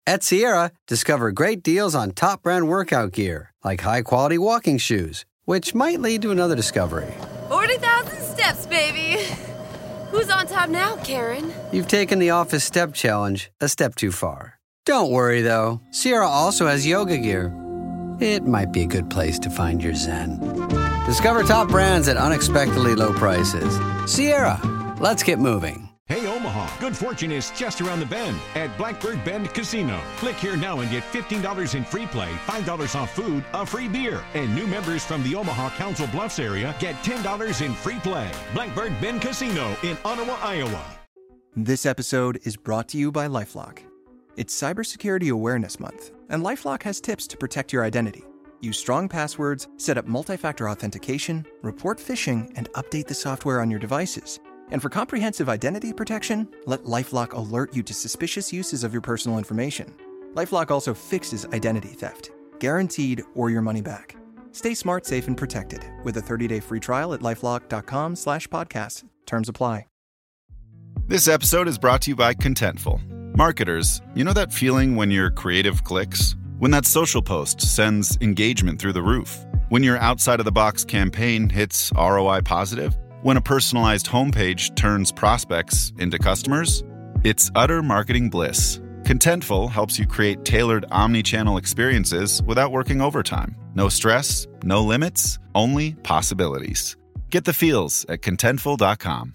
At Sierra, discover great deals on top brand workout gear, like high-quality walking shoes, which might lead to another discovery. 40,000 steps, baby. Who's on top now, Karen? You've taken the office step challenge a step too far. Don't worry, though. Sierra also has yoga gear. It might be a good place to find your zen. Discover top brands at unexpectedly low prices. Sierra, let's get moving. Hey, Omaha, good fortune is just around the bend at Blackbird Bend Casino. Click here now and get $15 in free play, $5 off food, a free beer. And new members from the Omaha Council Bluffs area get $10 in free play. Blackbird Bend Casino in Ottawa, Iowa. This episode is brought to you by LifeLock. It's Cybersecurity Awareness Month, and LifeLock has tips to protect your identity. Use strong passwords, set up multi-factor authentication, report phishing, and update the software on your devices. And for comprehensive identity protection, let LifeLock alert you to suspicious uses of your personal information. LifeLock also fixes identity theft, guaranteed or your money back. Stay smart, safe, and protected with a 30-day free trial at LifeLock.com/podcast. Terms apply. This episode is brought to you by Contentful. Marketers, you know that feeling when your creative clicks? When that social post sends engagement through the roof? When your outside-of-the-box campaign hits ROI positive? When a personalized homepage turns prospects into customers? It's utter marketing bliss. Contentful helps you create tailored omni-channel experiences without working overtime. No stress, no limits, only possibilities. Get the feels at Contentful.com.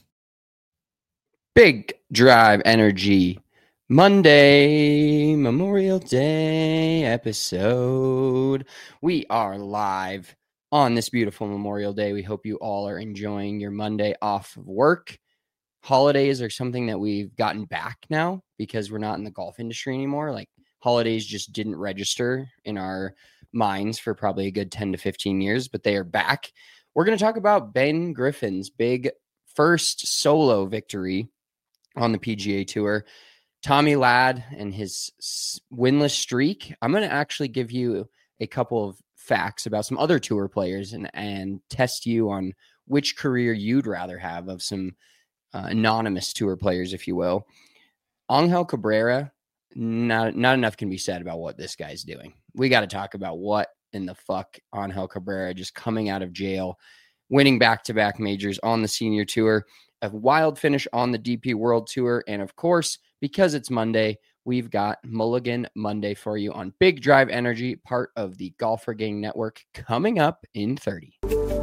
Big Drive Energy Monday, Memorial Day episode. We are live on this beautiful Memorial Day. We hope you all are enjoying your Monday off of work. Holidays are something that we've gotten back now because we're not in the golf industry anymore. Like, holidays just didn't register in our minds for probably a good 10 to 15 years, but they are back. We're going to talk about Ben Griffin's big first solo victory on the PGA Tour. Tommy Ladd and his winless streak. I'm going to actually give you a couple of facts about some other tour players and test you on which career you'd rather have of some anonymous tour players, if you will. Angel Cabrera, not enough can be said about what this guy's doing. We got to talk about what in the fuck Angel Cabrera, just coming out of jail, winning back-to-back majors on the senior tour, a wild finish on the DP World Tour, and of course, because it's Monday, we've got Mulligan Monday for you on Big Drive Energy, part of the Golfer Gang Network, coming up in 30.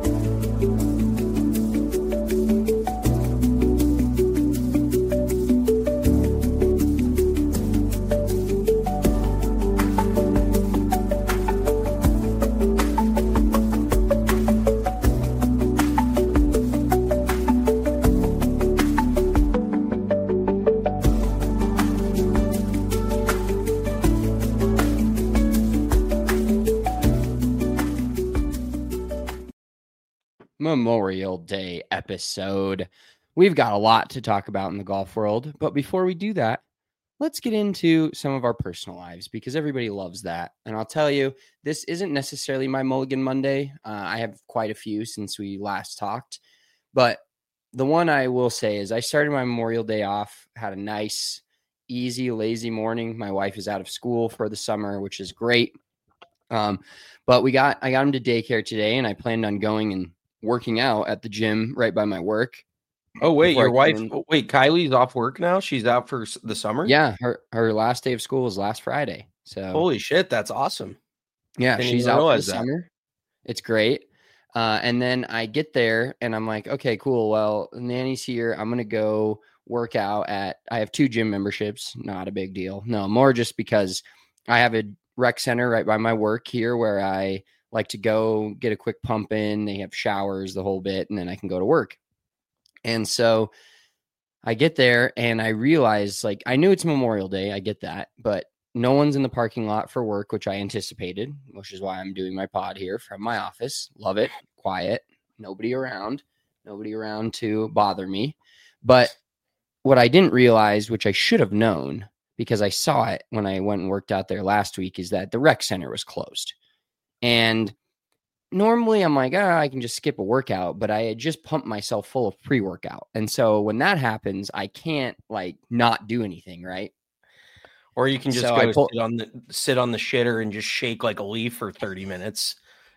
Memorial Day episode. We've got a lot to talk about in the golf world, but before we do that, let's get into some of our personal lives because everybody loves that. And I'll tell you, this isn't necessarily my Mulligan Monday. I have quite a few since we last talked, but the one I will say is I started my Memorial Day off, had a nice, easy, lazy morning. My wife is out of school for the summer, which is great. But I got him to daycare today, and I planned on going and working out at the gym right by my work. Oh, wait, your wife, Kylie's off work now? She's out for the summer? Yeah, her last day of school was last Friday. So holy shit, that's awesome. Yeah, she's out for the summer. It's great. And then I get there and I'm like, okay, cool. Well, Nanny's here. I'm going to go work out I have 2 gym memberships. Not a big deal. No, more just because I have a rec center right by my work here where I like to go get a quick pump in. They have showers, the whole bit, and then I can go to work. And so I get there and I realize, like, I knew it's Memorial Day. I get that, but no one's in the parking lot for work, which I anticipated, which is why I'm doing my pod here from my office. Love it. Quiet. Nobody around to bother me. But what I didn't realize, which I should have known because I saw it when I went and worked out there last week, is that the rec center was closed. And normally I'm like, I can just skip a workout, but I had just pumped myself full of pre-workout. And so when that happens, I can't like not do anything, right? Or you can just So sit on the shitter and just shake like a leaf for 30 minutes.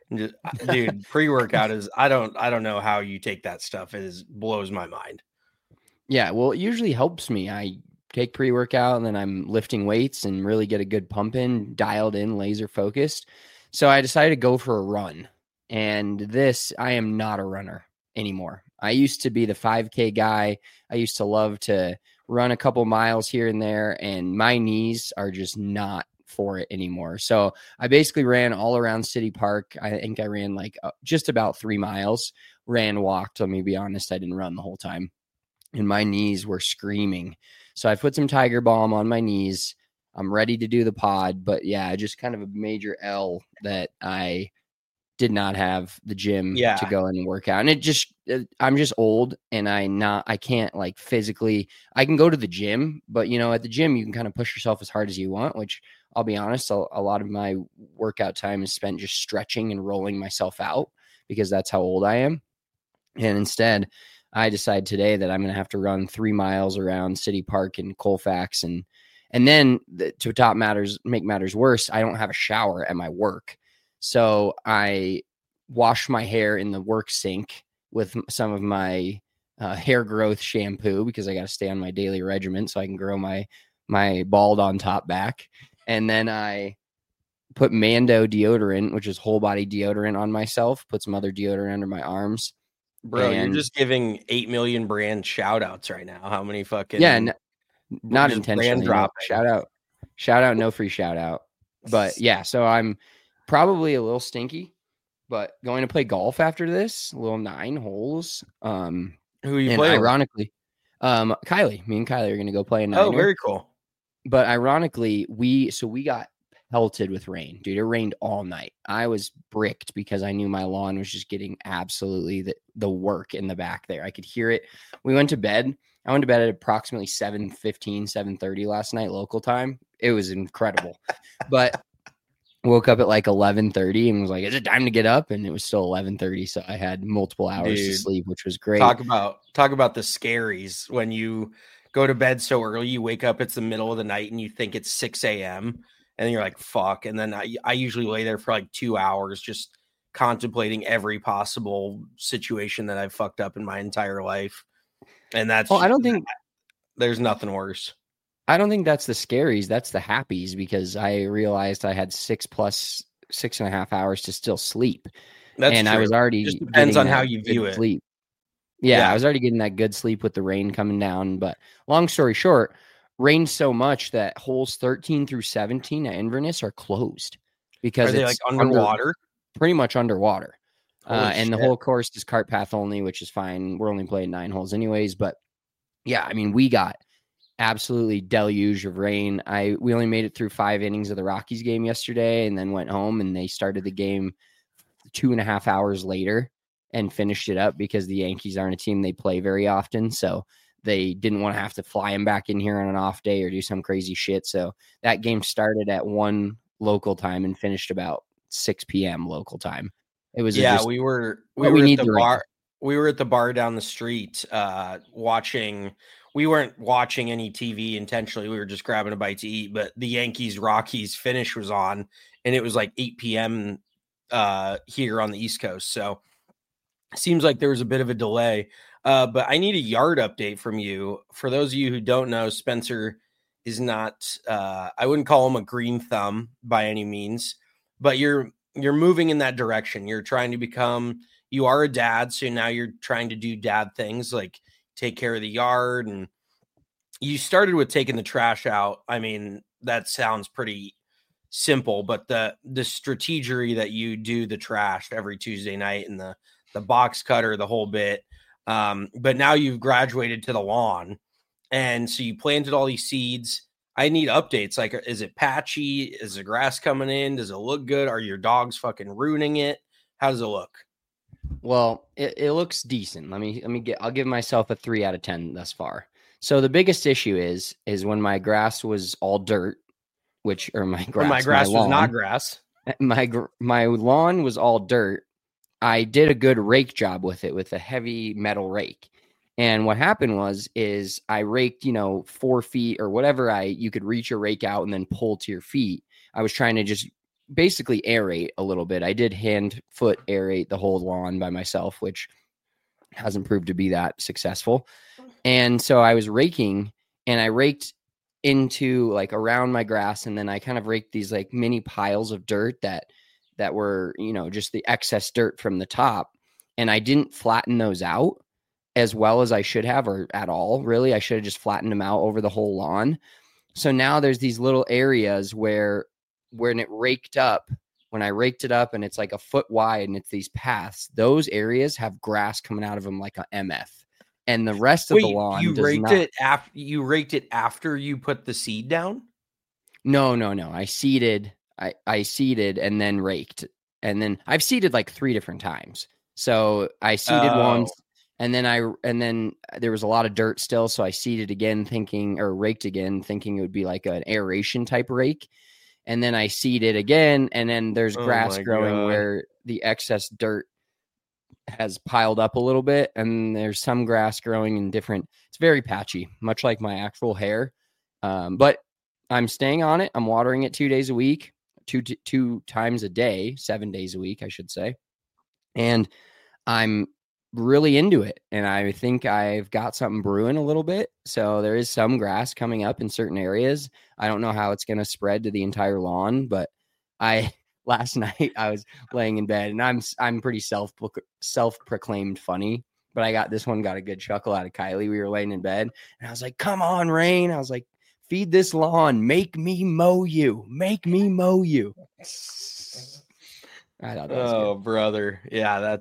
Dude, pre-workout is I don't know how you take that stuff. It blows my mind. Yeah, well, it usually helps me. I take pre-workout and then I'm lifting weights and really get a good pump in, dialed in, laser focused. So I decided to go for a run. And I am not a runner anymore. I used to be the 5K guy. I used to love to run a couple miles here and there, and my knees are just not for it anymore. So I basically ran all around City Park. I think I ran like just about 3 miles, walked. Let me be honest, I didn't run the whole time. And my knees were screaming. So I put some Tiger Balm on my knees. I'm ready to do the pod, but yeah, just kind of a major L that I did not have the gym to go in and work out. And I'm just old, and I can't like physically, I can go to the gym, but at the gym, you can kind of push yourself as hard as you want, which I'll be honest, a lot of my workout time is spent just stretching and rolling myself out because that's how old I am. And instead, I decide today that I'm going to have to run 3 miles around City Park and Colfax. And then make matters worse, I don't have a shower at my work. So I wash my hair in the work sink with some of my hair growth shampoo because I got to stay on my daily regimen so I can grow my bald on top back. And then I put Mando deodorant, which is whole body deodorant, on myself, put some other deodorant under my arms. Bro, you're just giving 8 million brand shout outs right now. How many fucking... Yeah, not intentionally. No, shout out, no free shout out. But yeah, so I'm probably a little stinky, but going to play golf after this, a little 9 holes. Who are you playing? Ironically, Kylie. Me and Kylie are going to go play a 9. Oh, very cool. But ironically, we got pelted with rain, dude. It rained all night. I was bricked because I knew my lawn was just getting absolutely the work in the back there. I could hear it. We went to bed. I went to bed at approximately 7:15, 7:30 last night, local time. It was incredible. But woke up at like 11:30 and was like, is it time to get up? And it was still 11:30. So I had multiple hours to sleep, which was great. Talk about the scaries. When you go to bed so early, you wake up, it's the middle of the night and you think it's 6 a.m. And then you're like, fuck. And then I usually lay there for like 2 hours, just contemplating every possible situation that I've fucked up in my entire life. And that's, I don't think there's nothing worse. I don't think that's the scaries. That's the happies, because I realized I had 6.5 hours to still sleep. That's and true. I was already, just depends on how you view it. Sleep. Yeah, I was already getting that good sleep with the rain coming down. But long story short, rained so much that holes 13 through 17 at Inverness are closed because it's like underwater, pretty much underwater. And shit. The whole course is cart path only, which is fine. We're only playing 9 holes anyways. But yeah, I mean, we got absolutely deluge of rain. We only made it through 5 innings of the Rockies game yesterday and then went home, and they started the game 2.5 hours later and finished it up because the Yankees aren't a team they play very often. So they didn't want to have to fly him back in here on an off day or do some crazy shit. So that game started at 1 local time and finished about 6 p.m. local time. It was we were at the bar. We were at the bar down the street watching. We weren't watching any TV intentionally. We were just grabbing a bite to eat. But the Yankees Rockies finish was on, and it was like 8 p.m. Here on the East Coast. So it seems like there was a bit of a delay. But I need a yard update from you. For those of you who don't know, Spencer is not, I wouldn't call him a green thumb by any means, but you're moving in that direction. You're trying to you are a dad. So now you're trying to do dad things like take care of the yard. And you started with taking the trash out. I mean, that sounds pretty simple, but the strategery that you do the trash every Tuesday night and the box cutter, the whole bit. But now you've graduated to the lawn, and so you planted all these seeds. I need updates. Like, is it patchy? Is the grass coming in? Does it look good? Are your dogs fucking ruining it? How does it look? Well, it looks decent. I'll give myself a 3 out of 10 thus far. So the biggest issue is when my grass was all dirt, my grass was not grass. My lawn was all dirt. I did a good rake job with it with a heavy metal rake. And what happened is I raked, 4 feet or whatever you could reach your rake out and then pull to your feet. I was trying to just basically aerate a little bit. I did foot aerate the whole lawn by myself, which hasn't proved to be that successful. And so I was raking, and I raked into like around my grass, and then I kind of raked these like mini piles of dirt that were, just the excess dirt from the top. And I didn't flatten those out as well as I should have, or at all, really. I should have just flattened them out over the whole lawn. So now there's these little areas where when I raked it up and it's like a foot wide and it's these paths, those areas have grass coming out of them like a MF. And the rest of the lawn you raked it after you put the seed down? No. I seeded and then raked. And then I've seeded like 3 different times. So I seeded once. And then there was a lot of dirt still, so I seeded again, raked again, thinking it would be like an aeration type rake. And then I seeded again, and then there's grass growing where the excess dirt has piled up a little bit, and there's some grass growing in different. It's very patchy, much like my actual hair. But I'm staying on it. I'm watering it 2 days a week, two times a day, 7 days a week, I should say, and I'm really into it, and I think I've got something brewing a little bit. So there is some grass coming up in certain areas. I don't know how it's going to spread to the entire lawn, but last night I was laying in bed, and I'm pretty self-proclaimed funny, but I got a good chuckle out of Kylie. We were laying in bed, and I was like, "Come on, Rain!" I was like, "Feed this lawn, make me mow you." I thought that was good. Brother, yeah,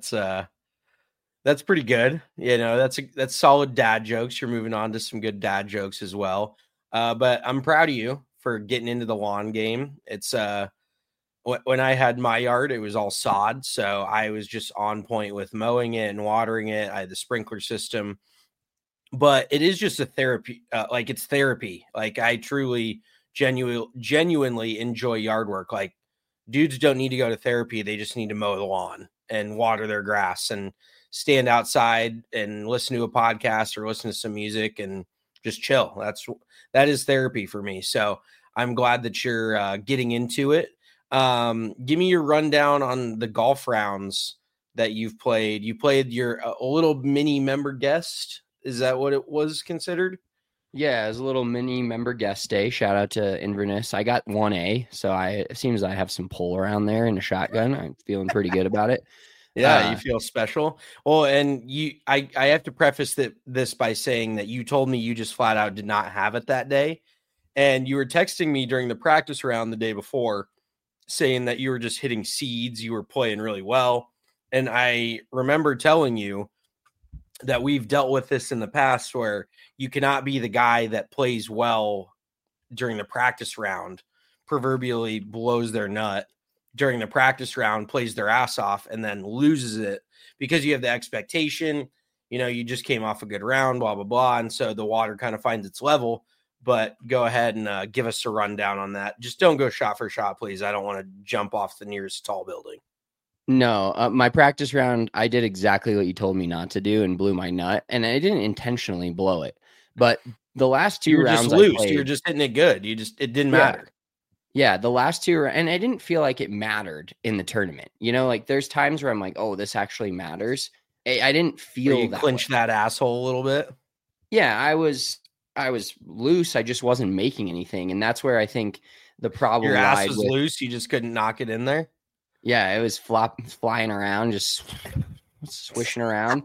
that's pretty good. That's solid dad jokes. You're moving on to some good dad jokes as well. But I'm proud of you for getting into the lawn game. It's when I had my yard, it was all sod, so I was just on point with mowing it and watering it. I had the sprinkler system, but it is just a therapy. It's therapy. Like, I truly, genuinely enjoy yard work. Like, dudes don't need to go to therapy; they just need to mow the lawn and water their grass and stand outside and listen to a podcast or listen to some music and just chill. That is therapy for me. So I'm glad that you're getting into it. Give me your rundown on the golf rounds that you've played. You played a little mini member guest. Is that what it was considered? Yeah, it was a little mini member guest day. Shout out to Inverness. I got 1A, so it seems I have some pull around there in a shotgun. I'm feeling pretty good about it. Yeah, you feel special. Well, and I have to preface this by saying that you told me you just flat out did not have it that day. And you were texting me during the practice round the day before saying that you were just hitting seeds. You were playing really well. And I remember telling you that we've dealt with this in the past where you cannot be the guy that plays well during the practice round, proverbially blows their nut during the practice round, plays their ass off, and then loses it because you have the expectation, you just came off a good round, blah, blah, blah. And so the water kind of finds its level. But go ahead and give us a rundown on that. Just don't go shot for shot, please. I don't want to jump off the nearest tall building. No, my practice round, I did exactly what you told me not to do and blew my nut. And I didn't intentionally blow it. But the last 2 rounds just loose. You were just hitting it good. It didn't matter. Yeah, the last 2, and I didn't feel like it mattered in the tournament. Like there's times where I'm like, oh, this actually matters. I didn't feel you that clinch that asshole a little bit. Yeah, I was loose. I just wasn't making anything, and that's where I think the problem. Your ass was loose. You just couldn't knock it in there. Yeah, it was flying around, just swishing around.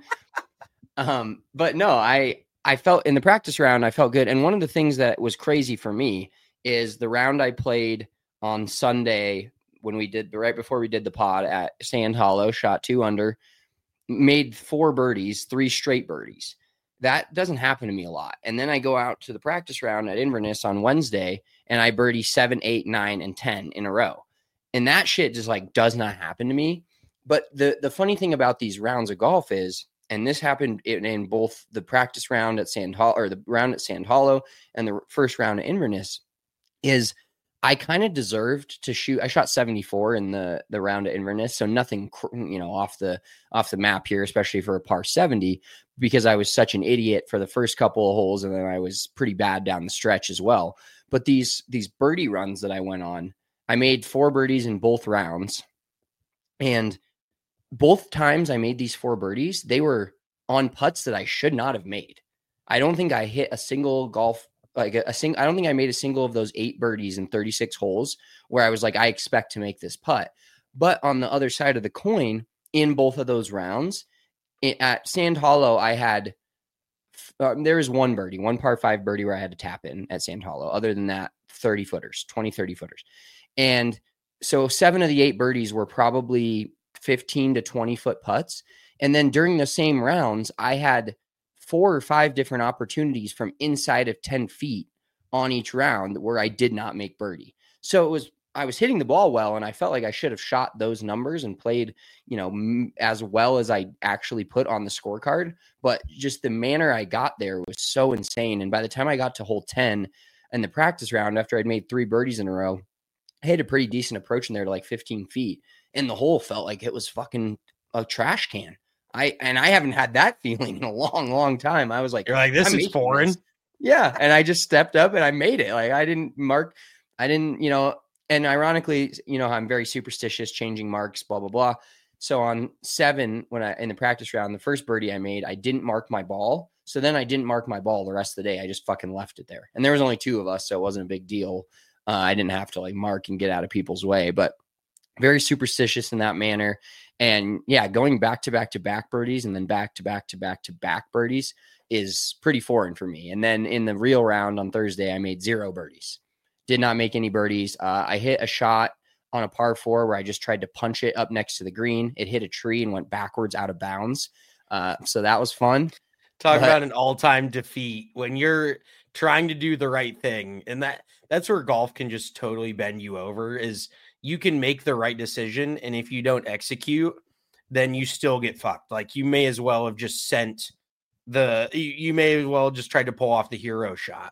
But no, I felt in the practice round, I felt good. And one of the things that was crazy for me is the round I played on Sunday when right before we did the pod at Sand Hollow, shot 2 under, made 4 birdies, 3 straight birdies. That doesn't happen to me a lot. And then I go out to the practice round at Inverness on Wednesday and I birdie 7, 8, 9, and 10 in a row. And that shit just does not happen to me. But the funny thing about these rounds of golf is, and this happened in both the practice round at Sand Hollow, or the round at Sand Hollow and the first round at Inverness, is I kind of deserved to shoot. I shot 74 in the round at Inverness, so nothing, off the map here, especially for a par 70, because I was such an idiot for the first couple of holes, and then I was pretty bad down the stretch as well. But these birdie runs that I went on, I made 4 birdies in both rounds, and both times I made these 4 birdies, they were on putts that I should not have made. I don't think I hit a single golf. I don't think I made a single of those 8 birdies in 36 holes where I was like, I expect to make this putt. But on the other side of the coin, in both of those rounds, at Sand Hollow, I had, there was one par 5 birdie where I had to tap in at Sand Hollow. Other than that, 30 footers. And so 7 of the 8 birdies were probably 15 to 20 foot putts. And then during the same rounds, I had 4 or 5 different opportunities from inside of 10 feet on each round where I did not make birdie. So I was hitting the ball well, and I felt like I should have shot those numbers and played, as well as I actually put on the scorecard. But just the manner I got there was so insane. And by the time I got to hole 10 in the practice round, after I'd made 3 birdies in a row, I had a pretty decent approach in there to like 15 feet. And the hole felt like it was fucking a trash can. I haven't had that feeling in a long, long time. I was like, you're like, this is foreign. This. Yeah. And I just stepped up and I made it. Like and ironically, I'm very superstitious, changing marks, blah, blah, blah. So on 7, in the practice round, the first birdie I made, I didn't mark my ball. So then I didn't mark my ball the rest of the day. I just fucking left it there. And there was only 2 of us, so it wasn't a big deal. I didn't have to mark and get out of people's way, but very superstitious in that manner. And yeah, going back to back birdies and then back to back birdies is pretty foreign for me. And then in the real round on Thursday, I made 0 birdies. Did not make any birdies. I hit a shot on a par 4 where I just tried to punch it up next to the green. It hit a tree and went backwards out of bounds. So that was fun. Talk about an all-time defeat when you're trying to do the right thing. And that's where golf can just totally bend you over, is you can make the right decision, and if you don't execute, then you still get fucked. Like, you may as well have just you may as well just tried to pull off the hero shot,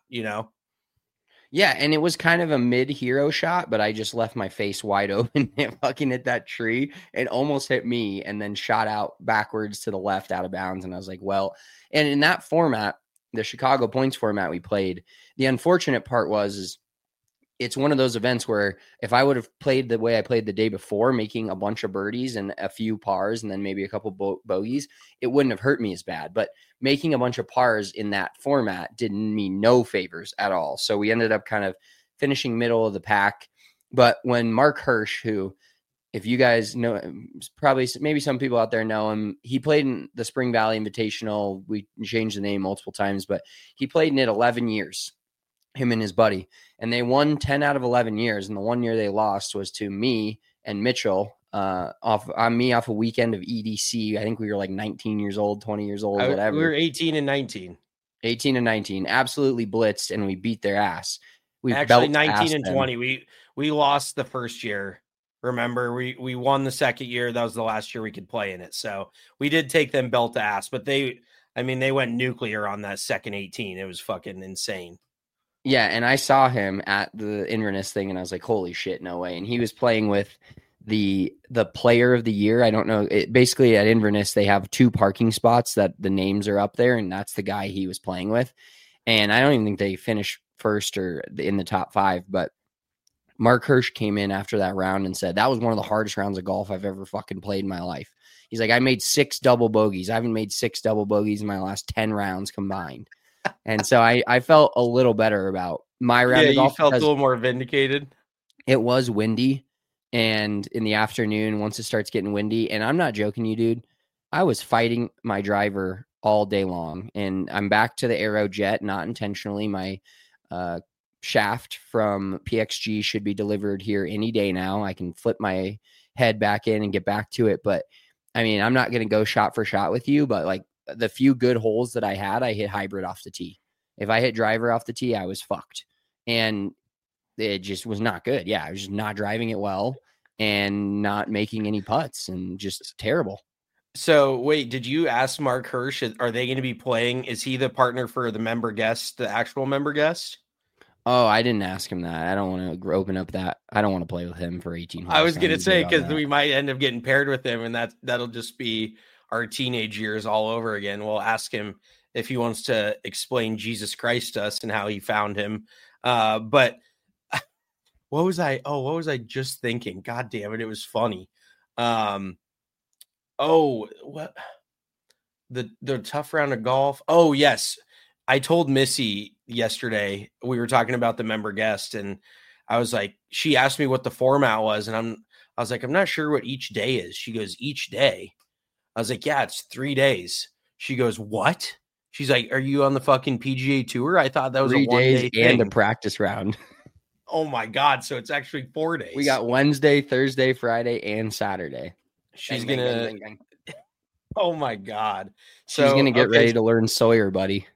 Yeah, and it was kind of a mid-hero shot, but I just left my face wide open and fucking hit that tree and almost hit me, and then shot out backwards to the left out of bounds. And I was like, well, and in that format, the Chicago points format we played, the unfortunate part is it's one of those events where if I would have played the way I played the day before, making a bunch of birdies and a few pars and then maybe a couple bogeys, it wouldn't have hurt me as bad. But making a bunch of pars in that format did me no favors at all. So we ended up kind of finishing middle of the pack. But when Mark Hirsch, who, if you guys know, probably maybe some people out there know him, he played in the Spring Valley Invitational. We changed the name multiple times, but he played in it 11 years. Him and his buddy, and they won 10 out of 11 years. And the one year they lost was to me and Mitchell off a weekend of EDC. I think we were like 19 years old, 20 years old, whatever. We were 18 and 19. 18 and 19, absolutely blitzed, and we beat their ass. We actually 19 and 20. We lost the first year. Remember, we won the second year. That was the last year we could play in it. So we did take them belt to ass, but they went nuclear on that second 18. It was fucking insane. Yeah, and I saw him at the Inverness thing, and I was like, holy shit, no way. And he was playing with the player of the year. I don't know. Basically, at Inverness, they have 2 parking spots that the names are up there, and that's the guy he was playing with. And I don't even think they finished first or in the top 5, but Mark Hirsch came in after that round and said, that was one of the hardest rounds of golf I've ever fucking played in my life. He's like, I made 6 double bogeys. I haven't made 6 double bogeys in my last 10 rounds combined. And so I felt a little better about my round of golf. You felt a little more vindicated. It was windy, and in the afternoon, once it starts getting windy, and I'm not joking you, dude, I was fighting my driver all day long, and I'm back to the Aero Jet, not intentionally. My shaft from PXG should be delivered here any day now. I can flip my head back in and get back to it, but I mean, I'm not going to go shot for shot with you, but like, the few good holes that I had, I hit hybrid off the tee. If I hit driver off the tee, I was fucked. And it just was not good. Yeah, I was just not driving it well and not making any putts and just terrible. So wait, did you ask Mark Hirsch, are they going to be playing? Is he the partner for the member guest, the actual member guest? Oh, I didn't ask him that. I don't want to open up that. I don't want to play with him for 18 holes. I was going to say, because we might end up getting paired with him, and that'll just be our teenage years all over again. We'll ask him if he wants to explain Jesus Christ to us and how he found him. But what was I just thinking? God damn it. It was funny. What the tough round of golf. Oh yes. I told Missy yesterday, we were talking about the member guest, and I was like, she asked me what the format was. And I was like, I'm not sure what each day is. She goes, each day. I was like, yeah, it's 3 days. She goes, what? She's like, are you on the fucking PGA Tour? I thought that was 3 a 1 day thing. And a practice round. Oh my God. So it's actually 4 days. We got Wednesday, Thursday, Friday, and Saturday. She's going to, oh my God. She's going to get ready to learn Sawyer, buddy.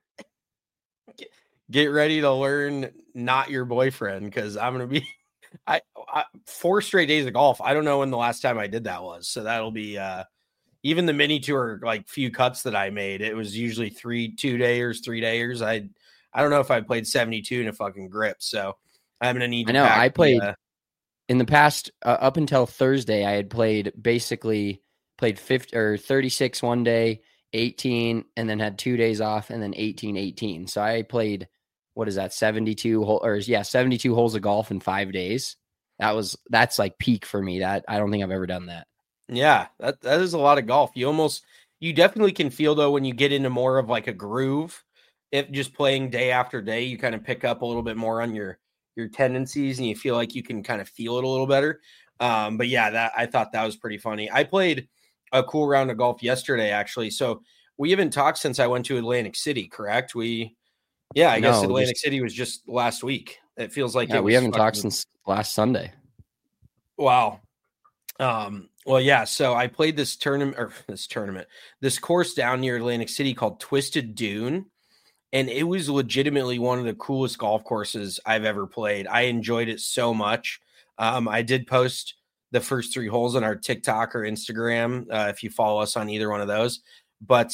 Get ready to learn not your boyfriend, because I'm going to be I 4 straight days of golf. I don't know when the last time I did that was. So that'll be even the mini tour, like few cuts that I made. It was usually 3 2-dayers. I don't know if I played 72 in a fucking grip. So I'm going to need to. I know I played in the past up until Thursday. I had played 50 or 36 one day, 18, and then had 2 days off, and then 18. So I played, what is that, 72 holes of golf in 5 days. That's like peak for me. That I don't think I've ever done that. Yeah, that is a lot of golf. You definitely can feel, though, when you get into more of like a groove, if just playing day after day, you kind of pick up a little bit more on your tendencies, and you feel like you can kind of feel it a little better. But yeah, I thought that was pretty funny. I played a cool round of golf yesterday, actually. So we haven't talked since I went to Atlantic City, correct? I guess Atlantic City was just last week. It feels like we haven't talked since last Sunday. Wow. Well, yeah. So I played this course down near Atlantic City called Twisted Dune, and it was legitimately one of the coolest golf courses I've ever played. I enjoyed it so much. I did post the first 3 holes on our TikTok or Instagram, if you follow us on either one of those. But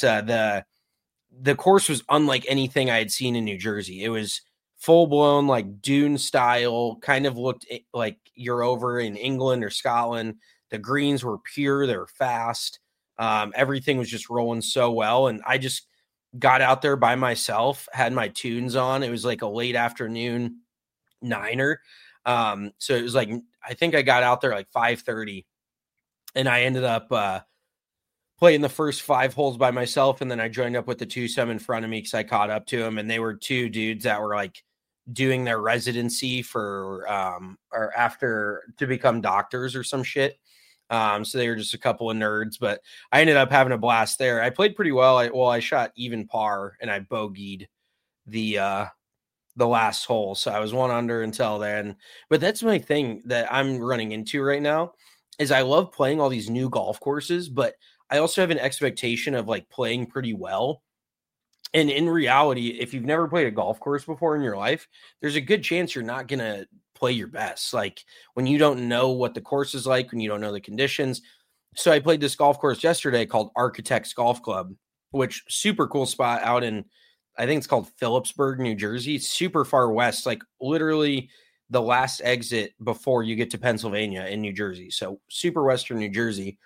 the course was unlike anything I had seen in New Jersey. It was full blown, like dune style, kind of looked like you're over in England or Scotland. The greens were pure. They were fast. Everything was just rolling so well. And I just got out there by myself, had my tunes on. It was like a late afternoon niner. So it was like, I think I got out there like 5:30, and I ended up playing the first 5 holes by myself. And then I joined up with the twosome in front of me, because I caught up to them, and they were 2 dudes that were like doing their residency for or after to become doctors or some shit. So they were just a couple of nerds, but I ended up having a blast there. I played pretty well. I shot even par, and I bogeyed the last hole. So I was 1 under until then. But that's my thing that I'm running into right now, is I love playing all these new golf courses, but I also have an expectation of like playing pretty well. And in reality, if you've never played a golf course before in your life, there's a good chance you're not going to play your best. Like when you don't know what the course is like, when you don't know the conditions. So I played this golf course yesterday called Architects Golf Club, which super cool spot out in, I think it's called Phillipsburg, New Jersey. It's super far west, like literally the last exit before you get to Pennsylvania in New Jersey. So super western New Jersey.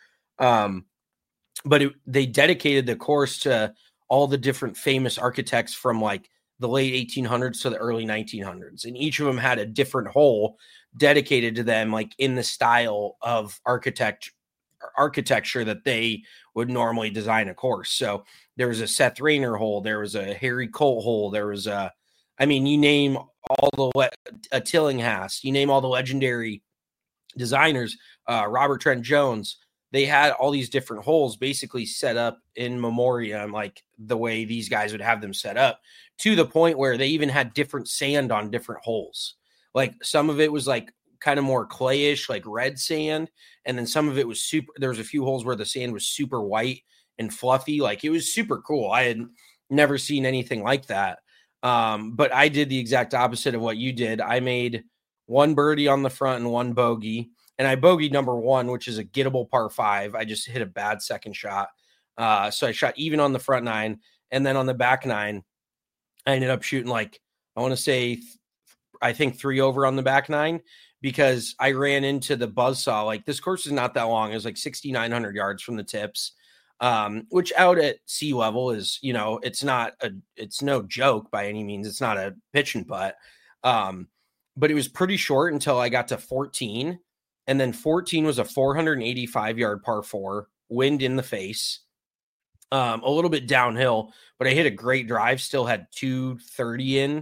But they dedicated the course to all the different famous architects from like the late 1800s to the early 1900s. And each of them had a different hole dedicated to them, like in the style of architecture that they would normally design a course. So there was a Seth Rayner hole. There was a Harry Colt hole. There was you name all a Tillinghast, you name all the legendary designers, Robert Trent Jones. They had all these different holes basically set up in memoriam, like the way these guys would have them set up, to the point where they even had different sand on different holes. Like some of it was like kind of more clayish, like red sand. And then some of it was there was a few holes where the sand was super white and fluffy. Like it was super cool. I had never seen anything like that. But I did the exact opposite of what you did. I made 1 birdie on the front and 1 bogey. And I bogeyed number 1, which is a gettable par 5. I just hit a bad second shot. So I shot even on the front 9. And then on the back 9, I ended up shooting like, I want to say I think 3 over on the back 9 because I ran into the buzzsaw. Like this course is not that long. It was like 6,900 yards from the tips, which out at sea level is, you know, it's no joke by any means. It's not a pitch and putt. But it was pretty short until I got to 14. And then 14 was a 485 yard par 4, wind in the face, a little bit downhill, but I hit a great drive, still had 230 in.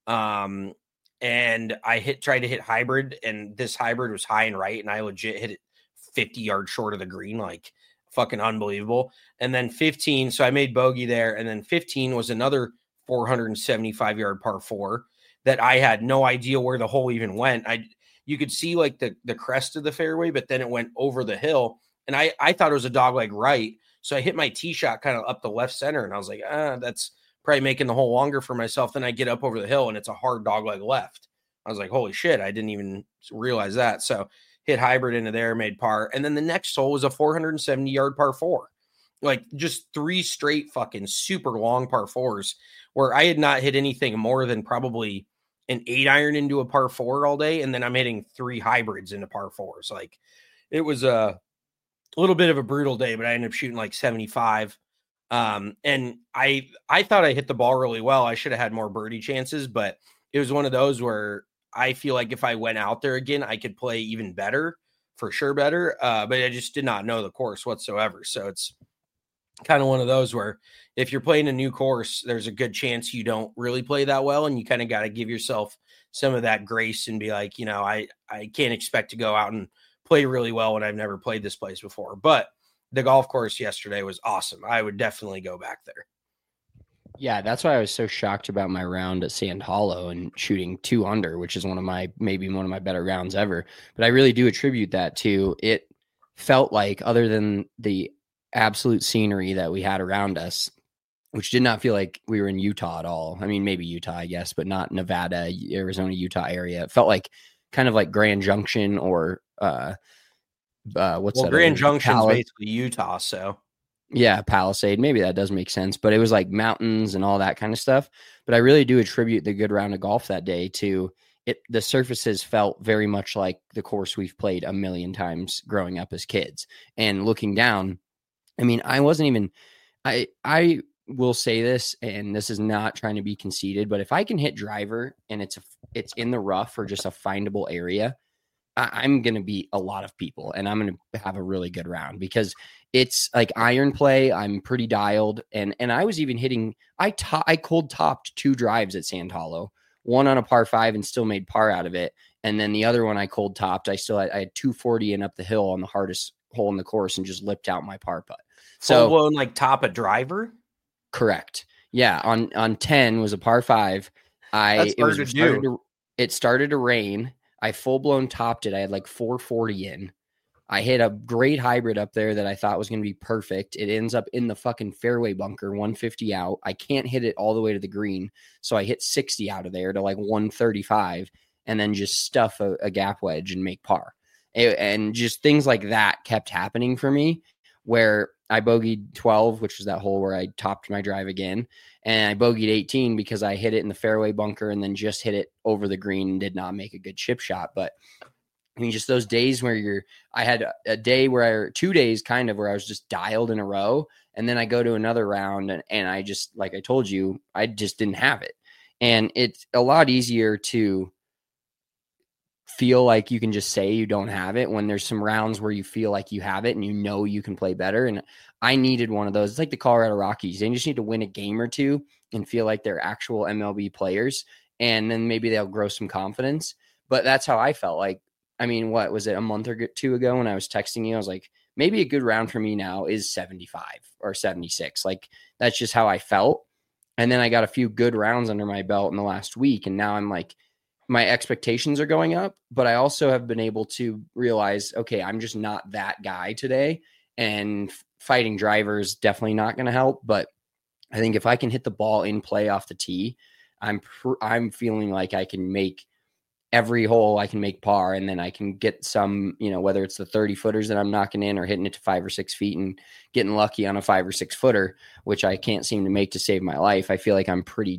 And I tried to hit hybrid, and this hybrid was high and right, and I legit hit it 50 yards short of the green, like fucking unbelievable. And then 15, so I made bogey there, and then 15 was another 475 yard par 4 that I had no idea where the hole even went. You could see like the crest of the fairway, but then it went over the hill, and I thought it was a dogleg right, so I hit my tee shot kind of up the left center, and I was like, that's probably making the hole longer for myself. Then I get up over the hill and it's a hard dogleg left. I was like, holy shit, I didn't even realize that. So hit hybrid into there, made par. And then the next hole was a 470 yard par 4, like just 3 straight fucking super long par 4s where I had not hit anything more than probably an 8-iron into a par 4 all day. And then I'm hitting 3 hybrids into par 4s. Like it was a little bit of a brutal day, but I ended up shooting like 75. And I thought I hit the ball really well. I should have had more birdie chances, but it was one of those where I feel like if I went out there again, I could play even better, for sure better. But I just did not know the course whatsoever. So it's kind of one of those where if you're playing a new course, there's a good chance you don't really play that well. And you kind of got to give yourself some of that grace and be like, you know, I can't expect to go out and play really well when I've never played this place before. But the golf course yesterday was awesome. I would definitely go back there. Yeah, that's why I was so shocked about my round at Sand Hollow and shooting 2 under, which is maybe one of my better rounds ever. But I really do attribute that to it felt like, other than the absolute scenery that we had around us, which did not feel like we were in Utah at all. I mean, maybe Utah, I guess, but not Nevada, Arizona, Utah area. It felt like kind of like Grand Junction or Grand Junction is basically Utah, so yeah, Palisade, maybe that does make sense, but it was like mountains and all that kind of stuff. But I really do attribute the good round of golf that day to it. The surfaces felt very much like the course we've played a million times growing up as kids. And looking down, I mean, I wasn't even I will say this, and this is not trying to be conceited, but if I can hit driver and it's in the rough or just a findable area, I'm going to beat a lot of people and I'm going to have a really good round because it's like iron play. I'm pretty dialed. And I was even hitting, I cold topped 2 drives at Sand Hollow, one on a par 5 and still made par out of it. And then the other one I cold topped. I had 240 and up the hill on the hardest hole in the course and just lipped out my par putt. So blown like top a driver. Correct. Yeah. On 10 was a par 5. It started to rain. I full blown topped it. I had like 440 in. I hit a great hybrid up there that I thought was going to be perfect. It ends up in the fucking fairway bunker, 150 out. I can't hit it all the way to the green. So I hit 60 out of there to like 135 and then just stuff a gap wedge and make par. And just things like that kept happening for me, where I bogeyed 12, which was that hole where I topped my drive again. And I bogeyed 18 because I hit it in the fairway bunker and then just hit it over the green and did not make a good chip shot. But I mean, just those days where I had a day where 2 days kind of where I was just dialed in a row. And then I go to another round and I just, like I told you, I just didn't have it. And it's a lot easier to feel like you can just say you don't have it when there's some rounds where you feel like you have it and you know you can play better. And I needed one of those. It's like the Colorado Rockies. They just need to win a game or two and feel like they're actual MLB players. And then maybe they'll grow some confidence. But that's how I felt. Like, I mean, what was it, a month or 2 ago when I was texting you? I was like, maybe a good round for me now is 75 or 76. Like, that's just how I felt. And then I got a few good rounds under my belt in the last week. And now I'm like, my expectations are going up, but I also have been able to realize, okay, I'm just not that guy today. And fighting drivers definitely not going to help. But I think if I can hit the ball in play off the tee, I'm feeling like I can make every hole, I can make par, and then I can get some, whether it's the 30 footers that I'm knocking in or hitting it to 5 or 6 feet and getting lucky on a 5 or 6 footer, which I can't seem to make to save my life. I feel like I'm pretty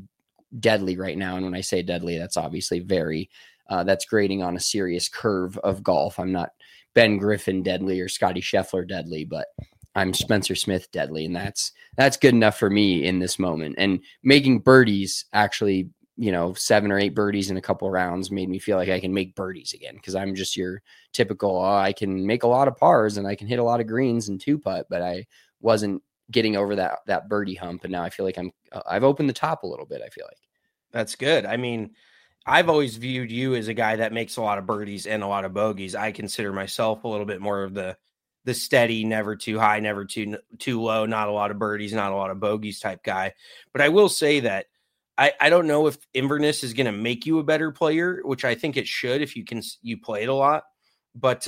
deadly right now. And when I say deadly, that's obviously that's grading on a serious curve of golf. I'm not Ben Griffin deadly or Scotty Scheffler deadly, but I'm Spencer Smith deadly. And that's good enough for me in this moment. And making birdies, actually, 7 or 8 birdies in a couple of rounds made me feel like I can make birdies again. Because I'm just your typical, I can make a lot of pars and I can hit a lot of greens and 2-putt, but I wasn't getting over that birdie hump. And now I feel like I've opened the top a little bit. I feel like that's good. I mean, I've always viewed you as a guy that makes a lot of birdies and a lot of bogeys. I consider myself a little bit more of the steady, never too high, never too low, not a lot of birdies, not a lot of bogeys type guy. But I will say that I don't know if Inverness is going to make you a better player, which I think it should if you play it a lot. But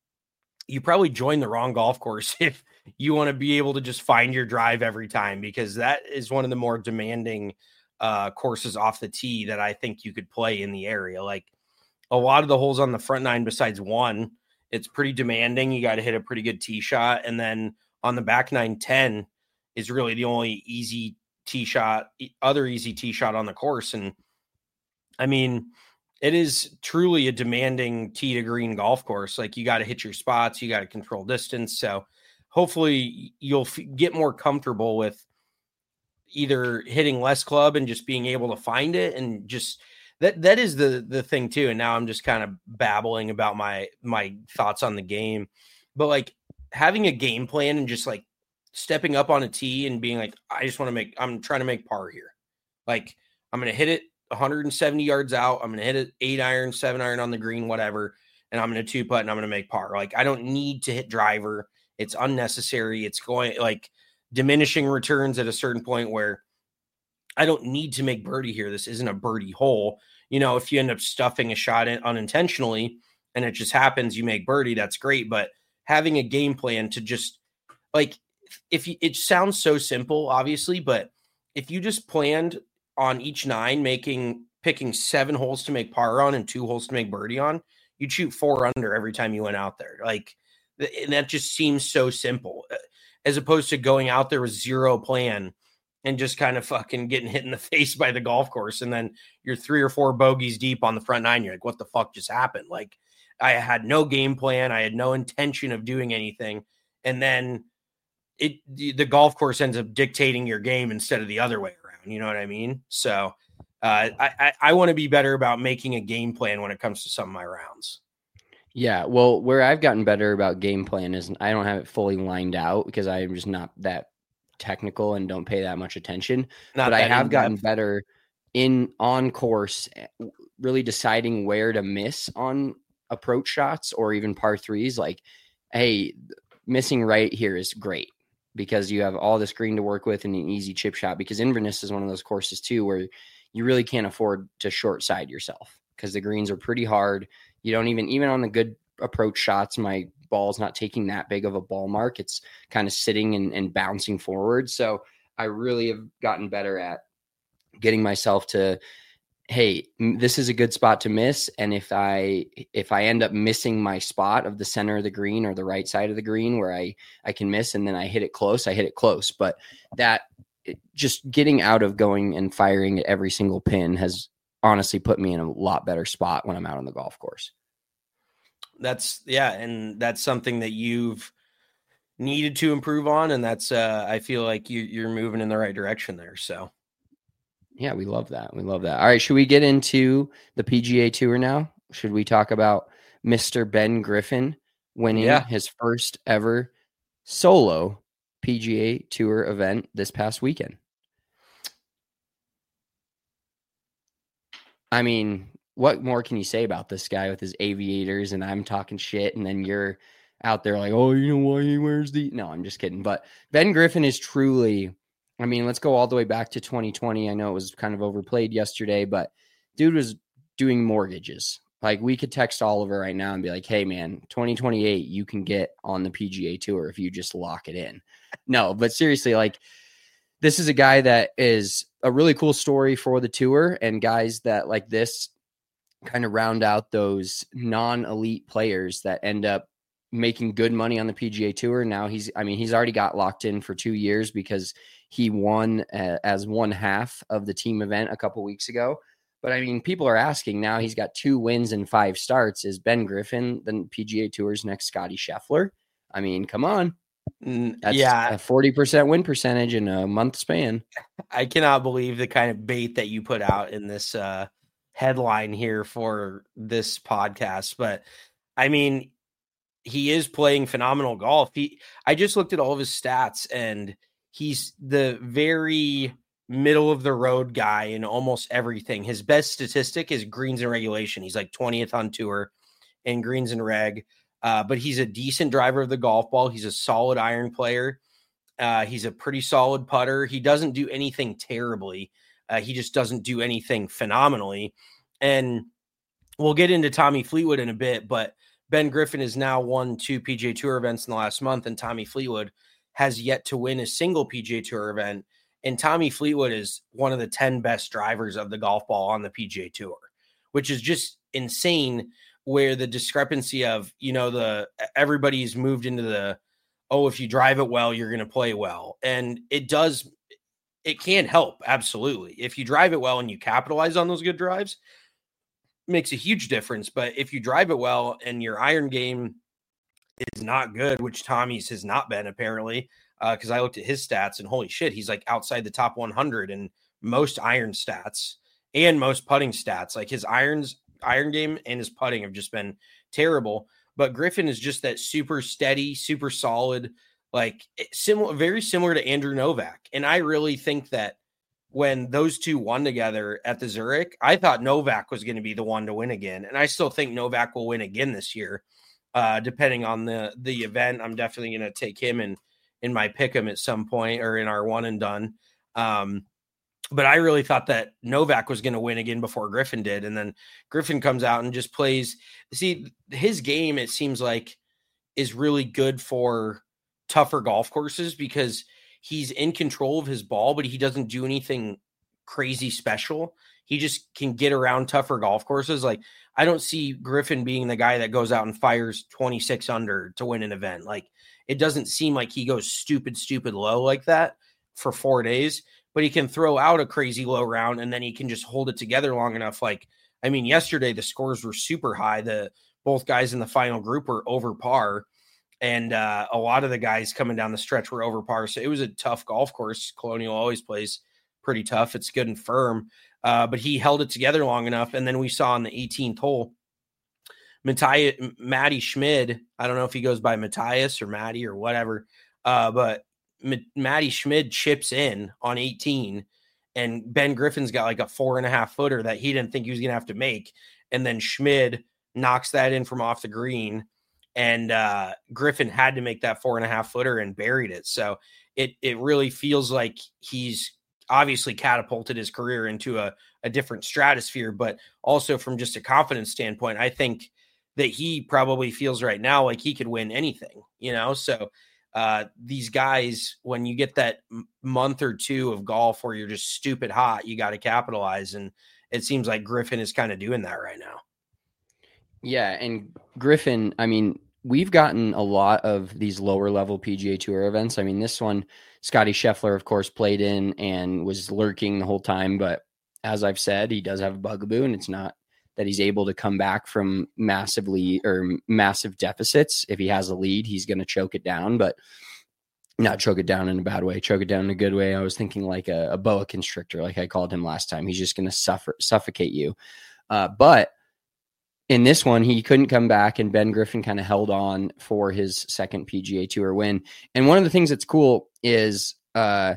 you probably joined the wrong golf course if you want to be able to just find your drive every time, because that is one of the more demanding courses off the tee that I think you could play in the area. Like a lot of the holes on the front 9, besides one, it's pretty demanding. You got to hit a pretty good tee shot. And then on the back 9, 10 is really the only easy tee shot on the course. And I mean, it is truly a demanding tee to green golf course. Like you got to hit your spots, you got to control distance. So hopefully you'll get more comfortable with either hitting less club and just being able to find it. And just that is the thing too. And now I'm just kind of babbling about my thoughts on the game, but like having a game plan and just like stepping up on a tee and being like, I'm trying to make par here. Like I'm going to hit it 170 yards out. I'm going to hit it 8 iron, 7 iron on the green, whatever. And I'm going to 2-putt and I'm going to make par. Like I don't need to hit driver. It's unnecessary. It's going like diminishing returns at a certain point where I don't need to make birdie here. This isn't a birdie hole. If you end up stuffing a shot in unintentionally and it just happens, you make birdie, that's great. But having a game plan to just like, it sounds so simple, obviously, but if you just planned on each 9, picking 7 holes to make par on and 2 holes to make birdie on, you'd shoot 4 under every time you went out there. Like, and that just seems so simple, as opposed to going out there with zero plan and just kind of fucking getting hit in the face by the golf course. And then you're 3 or 4 bogeys deep on the front 9. You're like, what the fuck just happened? Like I had no game plan. I had no intention of doing anything. And then the golf course ends up dictating your game instead of the other way around. You know what I mean? So I want to be better about making a game plan when it comes to some of my rounds. Yeah, well, where I've gotten better about game plan is I don't have it fully lined out because I'm just not that technical and don't pay that much attention. But I have gotten better on course, really deciding where to miss on approach shots or even par 3s. Like, hey, missing right here is great because you have all this green to work with and an easy chip shot, because Inverness is one of those courses too where you really can't afford to short side yourself because the greens are pretty hard. You don't even on the good approach shots, my ball's not taking that big of a ball mark. It's kind of sitting and bouncing forward. So I really have gotten better at getting myself to, hey, this is a good spot to miss. And if I end up missing my spot of the center of the green or the right side of the green where I can miss and then I hit it close. But that just getting out of going and firing at every single pin has honestly put me in a lot better spot when I'm out on the golf course. And that's something that you've needed to improve on. And that's, I feel like you're moving in the right direction there. So yeah, we love that. All right. Should we get into the PGA Tour now? Should we talk about Mr. Ben Griffin winning his first ever solo PGA Tour event this past weekend? I mean, what more can you say about this guy with his aviators and I'm talking shit and then you're out there like, oh, you know why he wears the... No, I'm just kidding. But Ben Griffin is truly... I mean, let's go all the way back to 2020. I know it was kind of overplayed yesterday, but dude was doing mortgages. Like we could text Oliver right now and be like, hey man, 2028, you can get on the PGA Tour if you just lock it in. No, but seriously, like this is a guy that is a really cool story for the tour, and guys that like this kind of round out those non-elite players that end up making good money on the PGA Tour. Now he's already got locked in for 2 years because he won as one half of the team event a couple weeks ago. But I mean, people are asking now, he's got 2 wins and 5 starts. Is Ben Griffin the PGA Tour's next Scotty Scheffler? I mean, come on. That's a 40% win percentage in a month span. I cannot believe the kind of bait that you put out in this headline here for this podcast. But I mean, he is playing phenomenal golf. I just looked at all of his stats, and he's the very middle of the road guy in almost everything. His best statistic is greens and regulation. He's like 20th on tour in greens and reg. But he's a decent driver of the golf ball. He's a solid iron player. He's a pretty solid putter. He doesn't do anything terribly. He just doesn't do anything phenomenally. And we'll get into Tommy Fleetwood in a bit, but Ben Griffin has now won 2 PGA Tour events in the last month, and Tommy Fleetwood has yet to win a single PGA Tour event. And Tommy Fleetwood is one of the 10 best drivers of the golf ball on the PGA Tour, which is just insane, where the discrepancy of, everybody's moved into the, if you drive it well, you're going to play well. And it can help. Absolutely. If you drive it well and you capitalize on those good drives, it makes a huge difference. But if you drive it well and your iron game is not good, which Tommy's has not been apparently, because I looked at his stats and holy shit, he's like outside the top 100 in most iron stats and most putting stats. Like his iron game and his putting have just been terrible. But Griffin is just that super steady, super solid, like very similar to Andrew Novak. And I really think that when those two won together at the Zurich, I thought Novak was going to be the one to win again. And I still think Novak will win again this year, depending on the event. I'm definitely going to take him in my pick 'em at some point, or in our one and done. But I really thought that Novak was going to win again before Griffin did. And then Griffin comes out and just plays. See, his game, it seems like, is really good for tougher golf courses because he's in control of his ball, but he doesn't do anything crazy special. He just can get around tougher golf courses. Like, I don't see Griffin being the guy that goes out and fires 26 under to win an event. Like, it doesn't seem like he goes stupid low like that for 4 days. But he can throw out a crazy low round, and then he can just hold it together long enough. Like, I mean, yesterday the scores were super high. Both guys in the final group were over par, and a lot of the guys coming down the stretch were over par. So it was a tough golf course. Colonial always plays pretty tough. It's good and firm, but he held it together long enough. And then we saw on the 18th hole, Matty Schmid. I don't know if he goes by Matthias or Matty or whatever, but Matty Schmid chips in on 18, and Ben Griffin's got like a 4.5 footer that he didn't think he was going to have to make. And then Schmid knocks that in from off the green, and Griffin had to make that 4.5 footer and buried it. So it really feels like he's obviously catapulted his career into a different stratosphere, but also from just a confidence standpoint, I think that he probably feels right now like he could win anything, So these guys, when you get that month or two of golf where you're just stupid hot, you got to capitalize. And it seems like Griffin is kind of doing that right now. Yeah. And Griffin, I mean, we've gotten a lot of these lower level PGA Tour events. I mean, this one, Scotty Scheffler, of course, played in and was lurking the whole time. But as I've said, he does have a bugaboo, and it's not that he's able to come back from massive deficits. If he has a lead, he's going to choke it down, but not choke it down in a bad way, choke it down in a good way. I was thinking like a boa constrictor, like I called him last time. He's just going to suffocate you. But in this one, he couldn't come back, and Ben Griffin kind of held on for his second PGA Tour win. And one of the things that's cool is I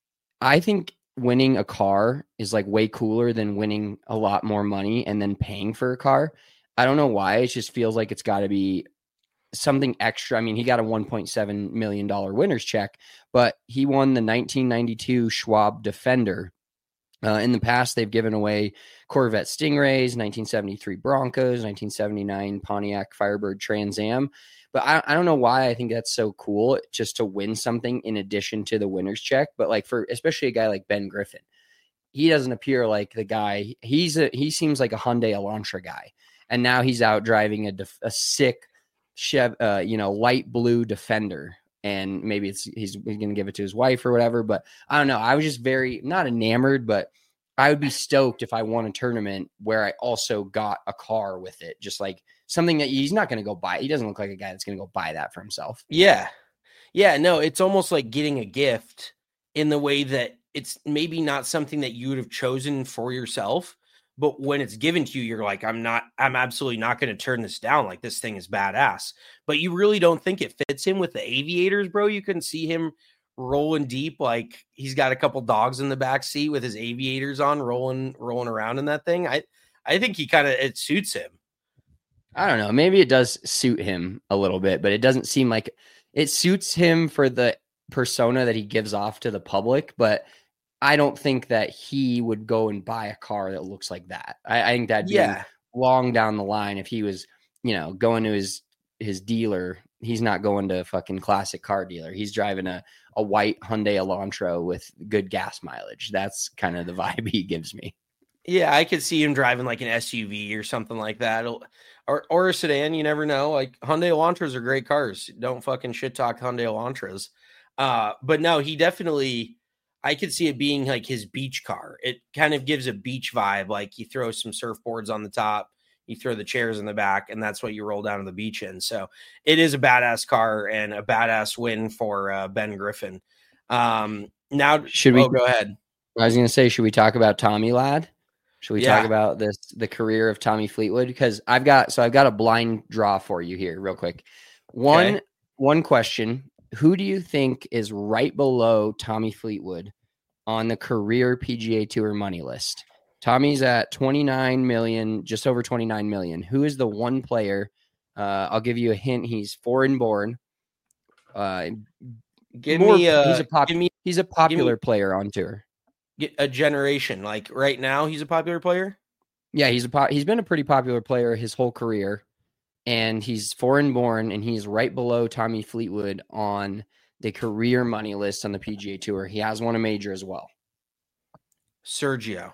think winning a car is like way cooler than winning a lot more money and then paying for a car. I don't know why. It just feels like it's got to be something extra. I mean, he got a $1.7 million winner's check, but he won the 1992 Schwab Defender. In the past, they've given away Corvette Stingrays, 1973 Broncos, 1979 Pontiac Firebird Trans Am. But I don't know why I think that's so cool, just to win something in addition to the winner's check. But like for especially a guy like Ben Griffin, he doesn't appear like the guy. He seems like a Hyundai Elantra guy, and now he's out driving a sick light blue Defender, and maybe he's going to give it to his wife or whatever. But I don't know. I was just very not enamored, but I would be stoked if I won a tournament where I also got a car with it, just like something that he's not going to go buy. He doesn't look like a guy that's going to go buy that for himself. Yeah. Yeah. No, it's almost like getting a gift in the way that it's maybe not something that you would have chosen for yourself, but when it's given to you, you're like, I'm absolutely not going to turn this down. Like, this thing is badass, but you really don't think it fits him with the aviators, bro. You can see him rolling deep. Like, he's got a couple dogs in the back seat with his aviators on, rolling around in that thing. I think it suits him. I don't know. Maybe it does suit him a little bit, but it doesn't seem like it suits him for the persona that he gives off to the public. But I don't think that he would go and buy a car that looks like that. I think that'd be long down the line if he was, going to his dealer. He's not going to a fucking classic car dealer. He's driving a white Hyundai Elantra with good gas mileage. That's kind of the vibe he gives me. Yeah, I could see him driving like an SUV or something like that. Or a sedan, you never know. Like, Hyundai Elantras are great cars. Don't fucking shit talk Hyundai Elantras. But no, he definitely, I could see it being like his beach car. It kind of gives a beach vibe. Like, you throw some surfboards on the top, you throw the chairs in the back, and that's what you roll down to the beach in. So it is a badass car and a badass win for Ben Griffin. Now, should we go ahead? I was going to say, should we talk about Tommy Lad? Should we talk about the career of Tommy Fleetwood? Because I've got a blind draw for you here real quick. One question. Who do you think is right below Tommy Fleetwood on the career PGA Tour money list? Tommy's at 29 million, just over 29 million. Who is the one player? I'll give you a hint. He's foreign born. He's a popular player on tour. A generation, like right now, he's a popular player. Yeah, he's been a pretty popular player his whole career, and he's foreign born, and he's right below Tommy Fleetwood on the career money list on the PGA Tour. He has won a major as well. Sergio.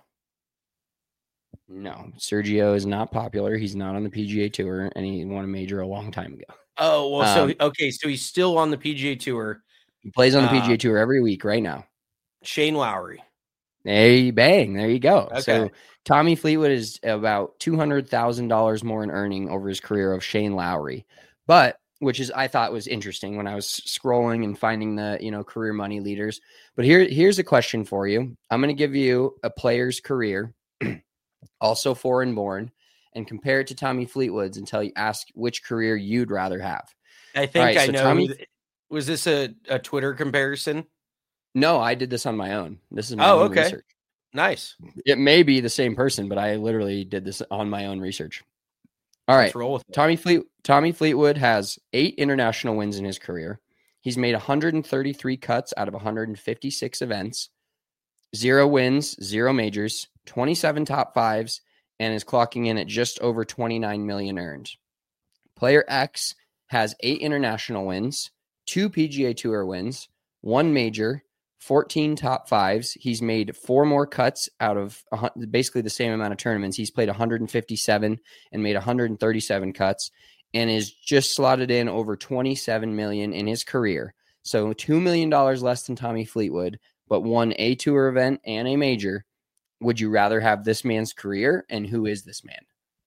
No, Sergio is not popular. He's not on the PGA Tour, and he won a major a long time ago. Oh, well, so he's still on the PGA Tour. He plays on the PGA Tour every week right now. Shane Lowry. Hey, bang. There you go. Okay. So Tommy Fleetwood is about $200,000 more in earning over his career of Shane Lowry, which I thought was interesting when I was scrolling and finding the, career money leaders. But here's a question for you. I'm going to give you a player's career, also foreign born, and compare it to Tommy Fleetwood's and ask which career you'd rather have. I think I know. Was this a Twitter comparison? No, I did this on my own. This is my own research. Nice. It may be the same person, but I literally did this on my own research. All right. Roll with it. Tommy Fleetwood has 8 international wins in his career. He's made 133 cuts out of 156 events, 0 wins, 0 majors, 27 top 5s, and is clocking in at just over 29 million earned. Player X has 8 international wins, 2 PGA Tour wins, 1 major, 14 top 5s. He's made 4 more cuts out of basically the same amount of tournaments. He's played 157 and made 137 cuts and is just slotted in over 27 million in his career. So $2 million less than Tommy Fleetwood, but won a tour event and a major. Would you rather have this man's career? And who is this man?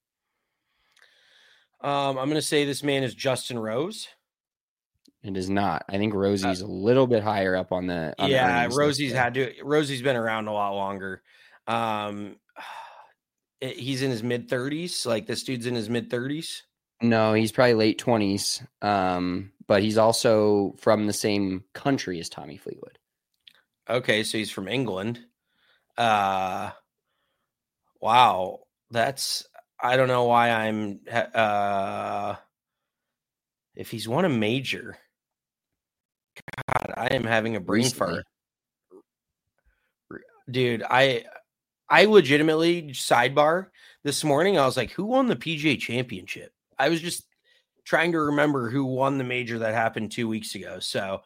I'm going to say this man is Justin Rose. It is not. I think Rosie's a little bit higher up on the. Rosie's been around a lot longer. He's in his mid 30s. Like, this dude's in his mid 30s. No, he's probably late 20s. But he's also from the same country as Tommy Fleetwood. Okay, so he's from England. Wow, I don't know why I'm. If he's won a major. God, I am having a brain fart. Dude, I legitimately, sidebar, this morning, I was like, who won the PGA Championship? I was just trying to remember who won the major that happened 2 weeks ago. So,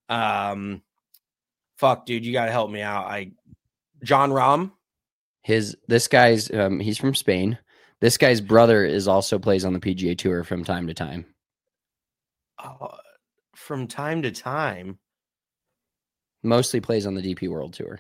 fuck, dude, you got to help me out. John Rahm? This guy's, he's from Spain. This guy's brother also plays on the PGA Tour from time to time. From time to time. Mostly plays on the DP World Tour.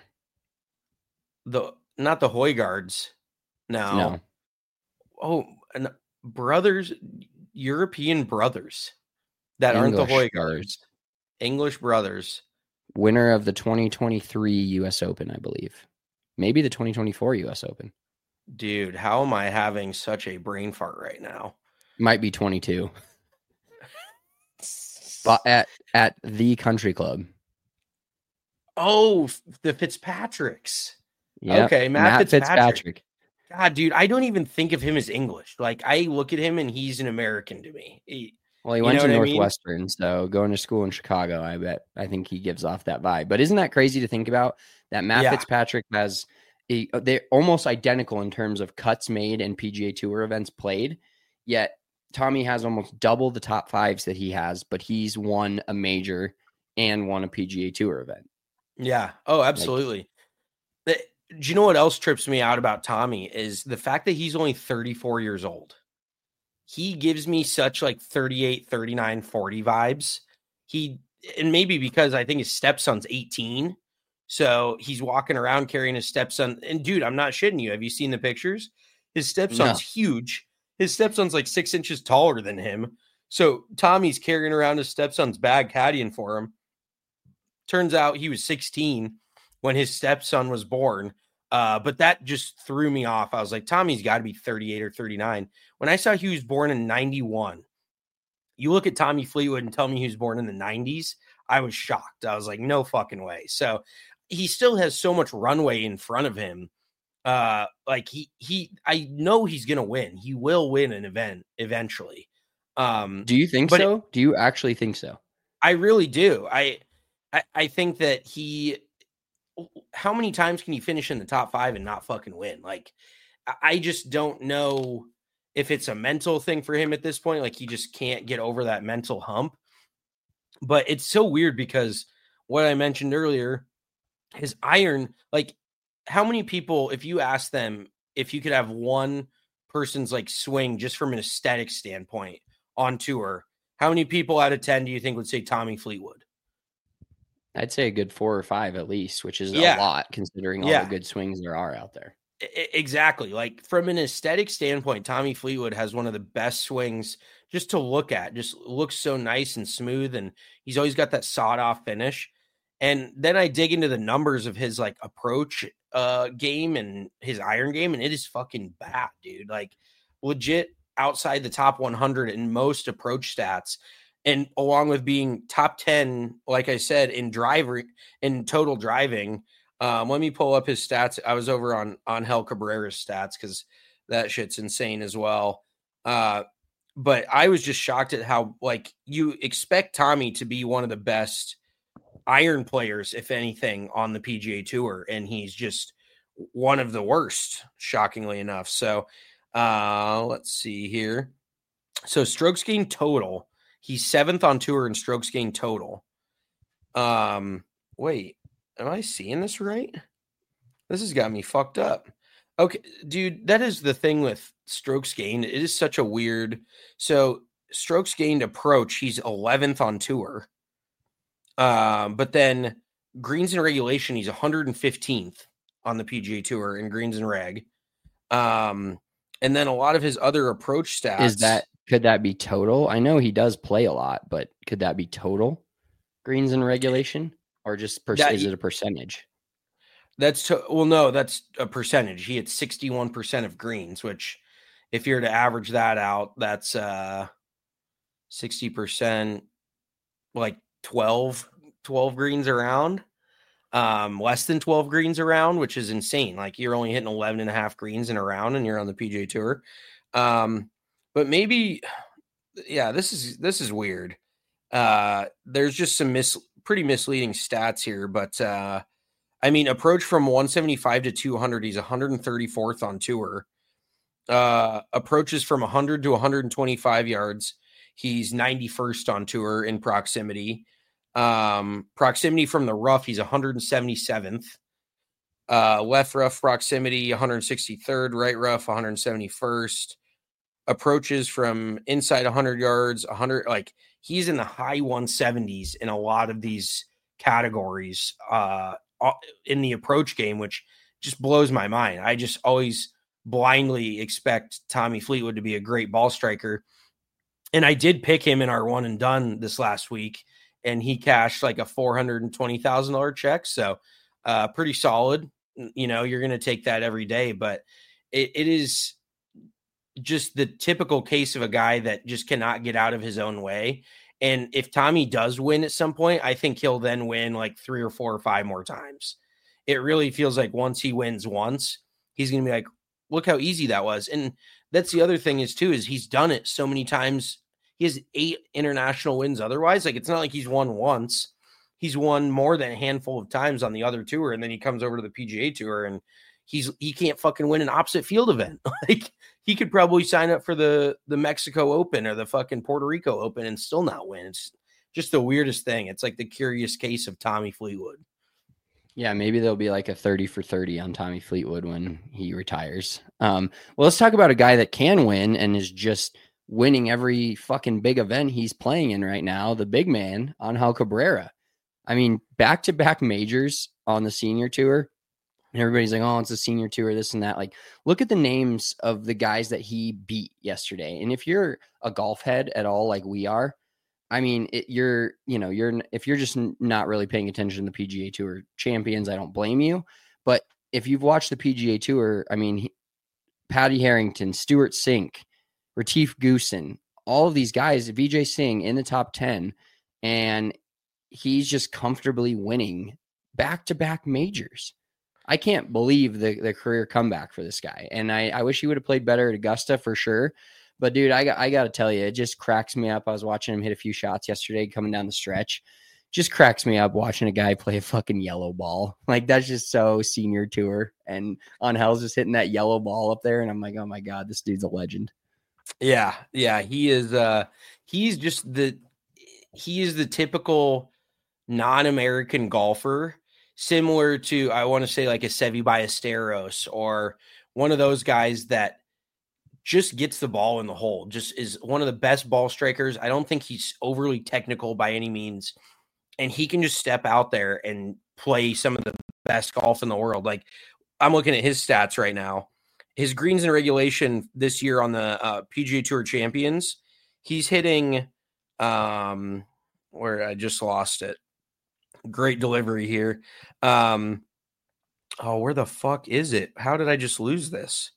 Not the Højgaards. No. No. And brothers, European brothers that aren't the Højgaards. English brothers. Winner of the 2023 U.S. Open, I believe. Maybe the 2024 U.S. Open. Dude, how am I having such a brain fart right now? Might be 22. But at the country club. Oh, the Fitzpatricks. Yep. Okay, Matt Fitzpatrick. Fitzpatrick. God, dude, I don't even think of him as English. Like, I look at him and he's an American to me. He went to Northwestern, so going to school in Chicago, I think he gives off that vibe. But isn't that crazy to think about? That Matt Fitzpatrick has they're almost identical in terms of cuts made and PGA Tour events played, yet Tommy has almost double the top fives that he has, but he's won a major and won a PGA Tour event. Yeah. Oh, absolutely. Do you know what else trips me out about Tommy is the fact that he's only 34 years old. He gives me such like 38, 39, 40 vibes. And maybe because I think his stepson's 18. So he's walking around carrying his stepson. And dude, I'm not shitting you. Have you seen the pictures? His stepson's huge. His stepson's like 6 inches taller than him. So Tommy's carrying around his stepson's bag, caddying for him. Turns out he was 16 when his stepson was born. But that just threw me off. I was like, Tommy's got to be 38 or 39. When I saw he was born in 91, you look at Tommy Fleetwood and tell me he was born in the 90s, I was shocked. I was like, no fucking way. So he still has so much runway in front of him. I know he's going to win. He will win an event eventually. Do you think so? Do you actually think so? I really do. I think that how many times can he finish in the top 5 and not fucking win? Like, I just don't know if it's a mental thing for him at this point. Like, he just can't get over that mental hump. But it's so weird because what I mentioned earlier, his iron, like, how many people, if you ask them if you could have one person's like swing just from an aesthetic standpoint on tour, how many people out of 10 do you think would say Tommy Fleetwood? I'd say a good 4 or 5 at least, which is a lot considering all the good swings there are out there. Exactly. Like, from an aesthetic standpoint, Tommy Fleetwood has one of the best swings just to look at. Just looks so nice and smooth, and he's always got that sawed-off finish. And then I dig into the numbers of his like approach game and his iron game, and it is fucking bad, dude. Like, legit outside the top 100 in most approach stats. And along with being top 10, like I said, in total driving. Let me pull up his stats. I was over on Angel Cabrera's stats because that shit's insane as well. But I was just shocked at how, like, you expect Tommy to be one of the best iron players, if anything, on the PGA Tour, and he's just one of the worst, shockingly enough. So let's see here. So strokes gained total. He's 7th on tour in strokes gained total. Wait, am I seeing this right? This has got me fucked up. Okay, dude, that is the thing with strokes gained. It is such a weird. So strokes gained approach, he's 11th on tour. But then greens and regulation, he's 115th on the PGA Tour in greens and reg. And then a lot of his other approach stats. Could that be total? I know he does play a lot, but could that be total greens and regulation, or just is it a percentage? No, that's a percentage. He had 61% of greens, which if you're to average that out, that's 60%, like 12 greens around, less than 12 greens around, which is insane. Like, you're only hitting 11 and a half greens in a round and you're on the PGA Tour. But maybe, this is weird. There's just some pretty misleading stats here, but I mean, approach from 175 to 200, he's 134th on tour. Approaches from 100 to 125 yards, he's 91st on tour in proximity. Proximity from the rough, he's 177th. Left rough proximity, 163rd. Right rough, 171st. Approaches from inside 100 yards, 100. Like, he's in the high 170s in a lot of these categories in the approach game, which just blows my mind. I just always blindly expect Tommy Fleetwood to be a great ball striker. And I did pick him in our one and done this last week, and he cashed like a $420,000 check. So pretty solid. You know, you're going to take that every day, but it is just the typical case of a guy that just cannot get out of his own way. And if Tommy does win at some point, I think he'll then win like 3 or 4 or 5 more times. It really feels like once he wins once, he's going to be like, look how easy that was. And that's the other thing is he's done it so many times. He has 8 international wins otherwise. Like, it's not like he's won once. He's won more than a handful of times on the other tour, and then he comes over to the PGA Tour, and he can't fucking win an opposite field event. Like, he could probably sign up for the Mexico Open or the fucking Puerto Rico Open and still not win. It's just the weirdest thing. It's like the curious case of Tommy Fleetwood. Yeah, maybe there'll be like a 30 for 30 on Tommy Fleetwood when he retires. Well, let's talk about a guy that can win and is just winning every fucking big event he's playing in right now, the big man, Angel Cabrera. I mean, back-to-back majors on the senior tour. And everybody's like, oh, it's a senior tour, this and that. Like, look at the names of the guys that he beat yesterday. And if you're a golf head at all, like we are, I mean, if you're just not really paying attention to the PGA Tour champions, I don't blame you. But if you've watched the PGA Tour, I mean, Patty Harrington, Stuart Sink, Retief Goosen, all of these guys, Vijay Singh in the top 10, and he's just comfortably winning back-to-back majors. I can't believe the career comeback for this guy. And I wish he would have played better at Augusta for sure. But, dude, I got to tell you, it just cracks me up. I was watching him hit a few shots yesterday coming down the stretch. Just cracks me up watching a guy play a fucking yellow ball. Like, that's just so senior tour. And Angel's just hitting that yellow ball up there. And I'm like, oh, my God, this dude's a legend. Yeah. He is he is the typical non-American golfer, similar to, I want to say, like a Seve Ballesteros or one of those guys that just gets the ball in the hole, just is one of the best ball strikers. I don't think he's overly technical by any means, and he can just step out there and play some of the best golf in the world. Like, I'm looking at his stats right now. His greens in regulation this year on the PGA Tour Champions, he's hitting where I just lost it. Great delivery here. Where the fuck is it? How did I just lose this?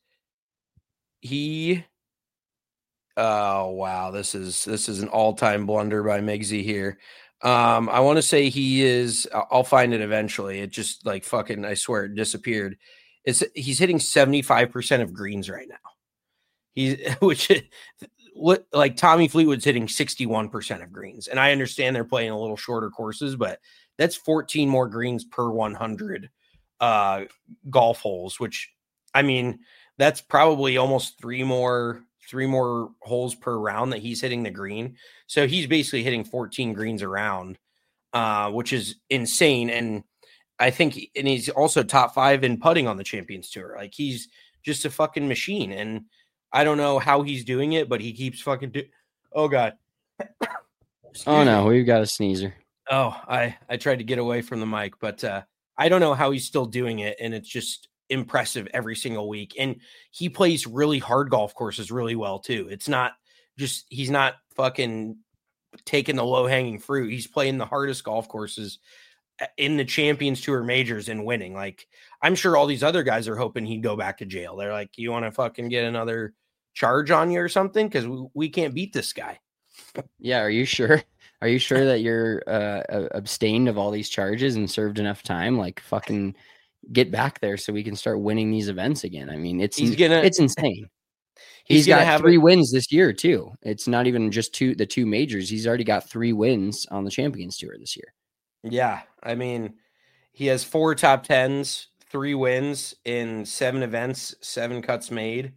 Oh wow, this is an all-time blunder by Migsy here. I want to say he is, I'll find it eventually. It just like fucking, I swear it disappeared. He's hitting 75% of greens right now. Like Tommy Fleetwood's hitting 61% of greens. And I understand they're playing a little shorter courses, but that's 14 more greens per 100 golf holes, which, I mean, that's probably almost three more holes per round that he's hitting the green. So he's basically hitting 14 greens a round, which is insane. And I think, and he's also top 5 in putting on the Champions Tour. Like, he's just a fucking machine. And I don't know how he's doing it, but he keeps fucking oh God. Oh no, we've got a sneezer. Oh, I tried to get away from the mic, but I don't know how he's still doing it. And it's just impressive every single week. And he plays really hard golf courses really well too. It's not just, he's not fucking taking the low hanging fruit. He's playing the hardest golf courses in the Champions Tour majors and winning. Like, I'm sure all these other guys are hoping he'd go back to jail. They're like, you want to fucking get another charge on you or something? Because we can't beat this guy. Yeah. Are you sure? Are you sure that you're abstained of all these charges and served enough time? Like, fucking get back there so we can start winning these events again. I mean, it's insane. He's got 3 wins this year too. It's not even just the two majors. He's already got 3 wins on the Champions Tour this year. Yeah. I mean, he has 4 top 10s, 3 wins in 7 events, 7 cuts made.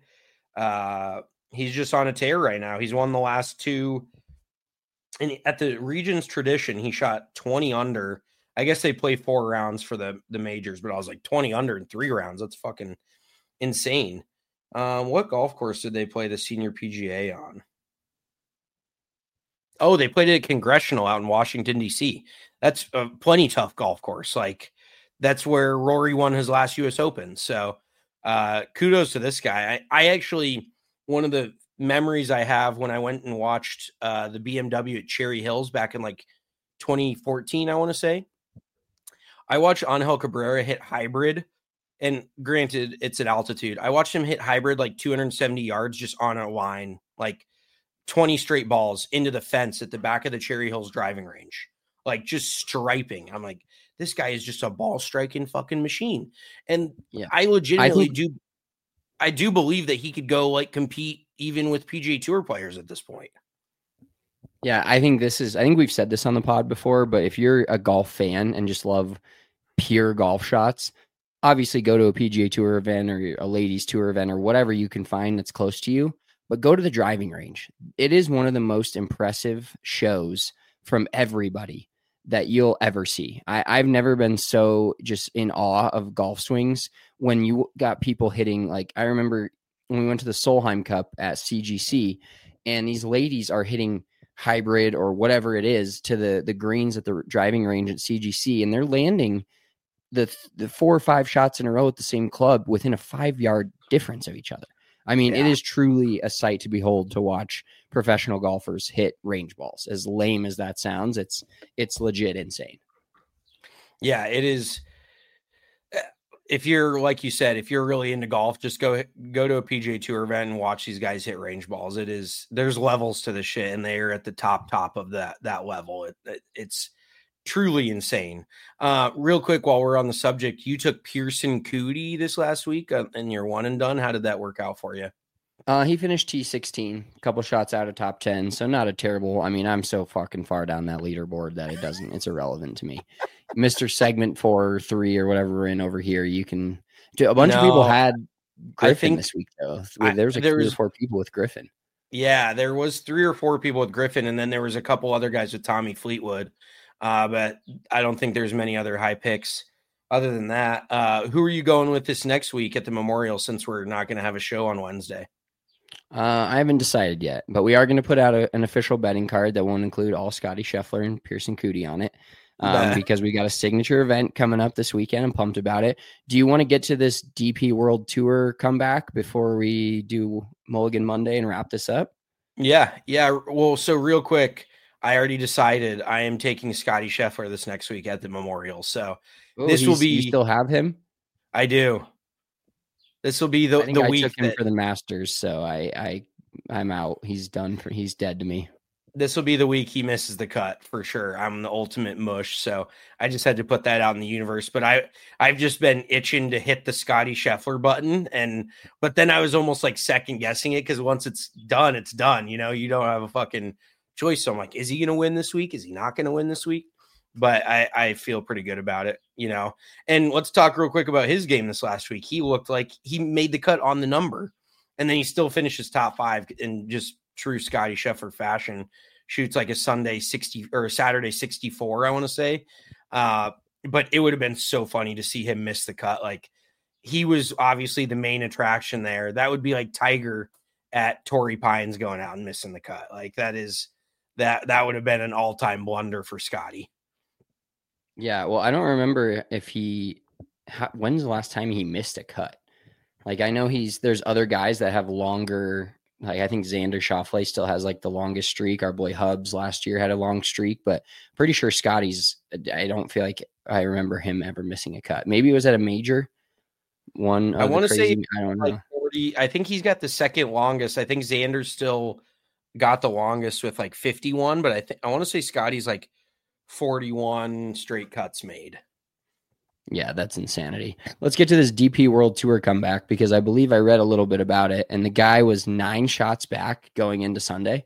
He's just on a tear right now. He's won the last 2. And at the Regions tradition, he shot 20 under. I guess they play 4 rounds for the majors, but I was like 20 under in 3 rounds. That's fucking insane. What golf course did they play the Senior PGA on? Oh, they played at Congressional out in Washington, D.C. That's a plenty tough golf course. Like, that's where Rory won his last U.S. Open. So kudos to this guy. I actually, one of the memories I have when I went and watched the BMW at Cherry Hills back in like 2014, I want to say. I watched Angel Cabrera hit hybrid. And granted, it's at altitude. I watched him hit hybrid like 270 yards just on a line, like 20 straight balls into the fence at the back of the Cherry Hills driving range, like just striping. I'm like, this guy is just a ball striking fucking machine. And yeah, I legitimately I do believe that he could go like compete even with PGA Tour players at this point. Yeah, I think we've said this on the pod before, but if you're a golf fan and just love pure golf shots, obviously go to a PGA Tour event or a ladies tour event or whatever you can find that's close to you, but go to the driving range. It is one of the most impressive shows from everybody that you'll ever see. I've never been so just in awe of golf swings when you got people hitting. Like, I remember when we went to the Solheim Cup at CGC and these ladies are hitting hybrid or whatever it is to the greens at the driving range at CGC, and they're landing the 4 or 5 shots in a row at the same club within a 5-yard difference of each other. I mean, It is truly a sight to behold to watch professional golfers hit range balls. As lame as that sounds, it's legit insane. Yeah, it is. If you're, like you said, if you're really into golf, just go to a PGA Tour event and watch these guys hit range balls. There's levels to the shit, and they're at the top of that level. It's truly insane. Real quick, while we're on the subject, you took Pearson Coody this last week in your one and done. How did that work out for you? He finished T16, a couple shots out of top 10, so not a terrible. I mean, I'm so fucking far down that leaderboard that it's irrelevant to me. Mr. Segment 4 or 3 or whatever we're in over here, you can. A bunch of people had Griffin this week, though. There was 3 or 4 people with Griffin. Yeah, there was 3 or 4 people with Griffin, and then there was a couple other guys with Tommy Fleetwood. But I don't think there's many other high picks other than that. Who are you going with this next week at the Memorial, since we're not going to have a show on Wednesday? I haven't decided yet, but we are going to put out an official betting card that won't include all Scotty Scheffler and Pearson Coody on it. Because we got a signature event coming up this weekend. I'm pumped about it. Do you want to get to this DP World Tour comeback before we do Mulligan Monday and wrap this up? Yeah. Well, so real quick, I already decided I am taking Scotty Scheffler this next week at the Memorial. So this will be. You still have him? I do. This will be the week. I took him for the Masters, so I'm out. He's done. He's dead to me. This will be the week he misses the cut for sure. I'm the ultimate mush, so I just had to put that out in the universe. But I've just been itching to hit the Scotty Scheffler button, but then I was almost like second guessing it because once it's done, it's done. You know, you don't have a fucking choice. So I'm like, is he going to win this week? Is he not going to win this week? But I feel pretty good about it, you know. And let's talk real quick about his game this last week. He looked like he made the cut on the number, and then he still finishes top 5 in just true Scotty Scheffler fashion. Shoots like a Sunday 60 or a Saturday 64, I want to say. But it would have been so funny to see him miss the cut. Like, he was obviously the main attraction there. That would be like Tiger at Torrey Pines going out and missing the cut. Like, that would have been an all-time blunder for Scotty. Yeah, well, I don't remember if when's the last time he missed a cut? Like, I know there's other guys that have longer. Like, I think Xander Schauffele still has like the longest streak. Our boy Hubs last year had a long streak, but pretty sure Scotty's, I don't feel like I remember him ever missing a cut. Maybe it was at a major one. I want to say, I don't know. Like 40, I think he's got the second longest. I think Xander's still got the longest with like 51, but I want to say Scotty's like 41 straight cuts made. Yeah, that's insanity. Let's get to this DP World Tour comeback because I believe I read a little bit about it, and the guy was 9 shots back going into Sunday.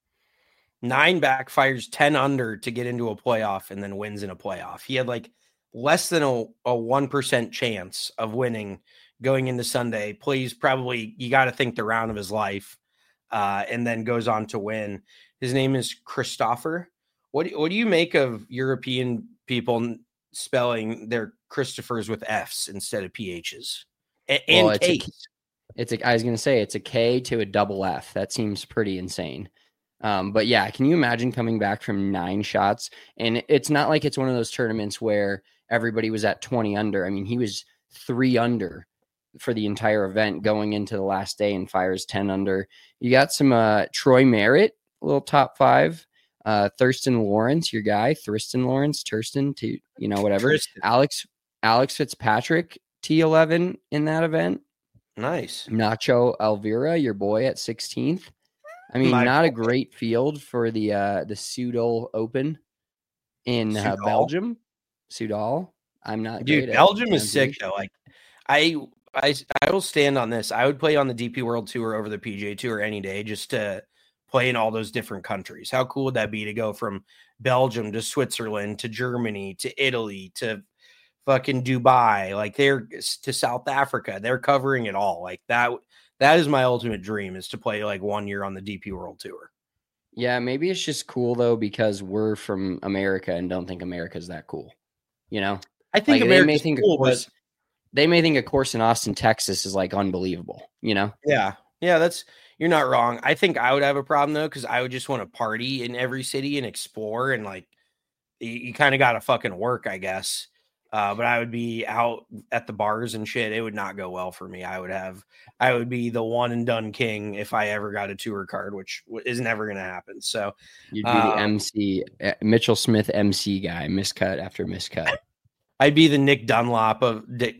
9 back, fires 10 under to get into a playoff, and then wins in a playoff. He had like less than a 1% chance of winning going into Sunday. Plays probably, you got to think, the round of his life, and then goes on to win. His name is Christopher. What do you make of European people spelling their Christophers with F's instead of PHs and K's? I was going to say it's a K to a double F. That seems pretty insane. But yeah, can you imagine coming back from 9 shots? And it's not like it's one of those tournaments where everybody was at 20 under. I mean, he was 3 under for the entire event going into the last day and fires 10 under. You got some Troy Merritt, a little top 5. Thurston Lawrence, your guy, Thurston Lawrence, whatever. Tristan. Alex Fitzpatrick, T11 in that event. Nice. Nacho Elvira, your boy at 16th. I mean, not a great field for the Soudal Open in Belgium. Soudal. I'm not. Dude, Belgium is sick though. Like, I will stand on this. I would play on the DP World Tour over the PGA Tour any day just to play in all those different countries. How cool would that be to go from Belgium to Switzerland to Germany to Italy to fucking Dubai, like they're to South Africa. They're covering it all. Like that is my ultimate dream, is to play like 1 year on the DP World Tour. Yeah, maybe it's just cool though because we're from America and don't think America's that cool. You know? I think they may think a course in Austin, Texas is like unbelievable, you know? Yeah. Yeah, you're not wrong. I think I would have a problem though, because I would just want to party in every city and explore, and like you kind of got to fucking work, I guess. But I would be out at the bars and shit. It would not go well for me. I would be the one and done king if I ever got a tour card, which is never going to happen. So you'd be the MC, Mitchell Smith MC guy, miscut after miscut. I'd be the Nick Dunlap of the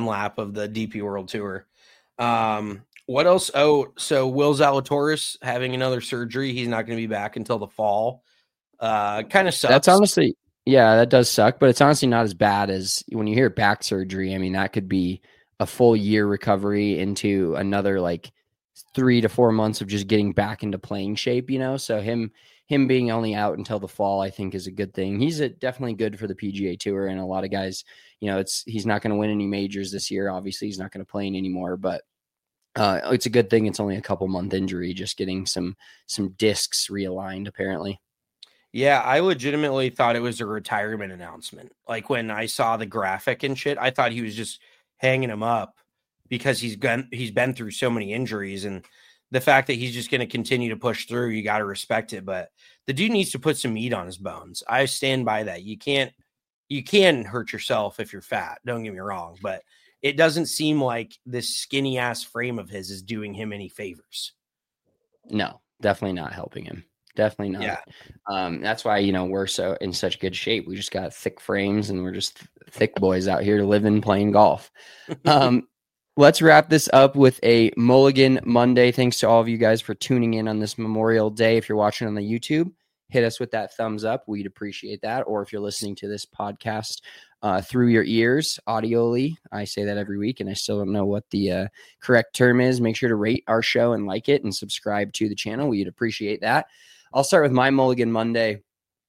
DP World Tour. What else? Oh, so Will Zalatoris having another surgery. He's not going to be back until the fall. Kind of sucks. That's honestly, yeah, that does suck, but it's honestly not as bad as when you hear back surgery. I mean, that could be a full year recovery into another like 3 to 4 months of just getting back into playing shape, you know? So him being only out until the fall, I think is a good thing. He's definitely good for the PGA Tour, and a lot of guys, you know, he's not going to win any majors this year. Obviously he's not going to play anymore, but it's a good thing. It's only a couple month injury, just getting some discs realigned apparently. Yeah, I legitimately thought it was a retirement announcement. Like when I saw the graphic and shit, I thought he was just hanging him up because he's been through so many injuries, and the fact that he's just going to continue to push through, you got to respect it. But the dude needs to put some meat on his bones. I stand by that. You can hurt yourself if you're fat. Don't get me wrong, but it doesn't seem like this skinny ass frame of his is doing him any favors. No, definitely not helping him. Definitely not. Yeah. That's why, you know, we're so in such good shape. We just got thick frames and we're just thick boys out here living, playing golf. Let's wrap this up with a Mulligan Monday. Thanks to all of you guys for tuning in on this Memorial Day. If you're watching on the YouTube, hit us with that thumbs up. We'd appreciate that. Or if you're listening to this podcast through your ears, audioly, I say that every week and I still don't know what the correct term is. Make sure to rate our show and like it and subscribe to the channel. We'd appreciate that. I'll start with my Mulligan Monday.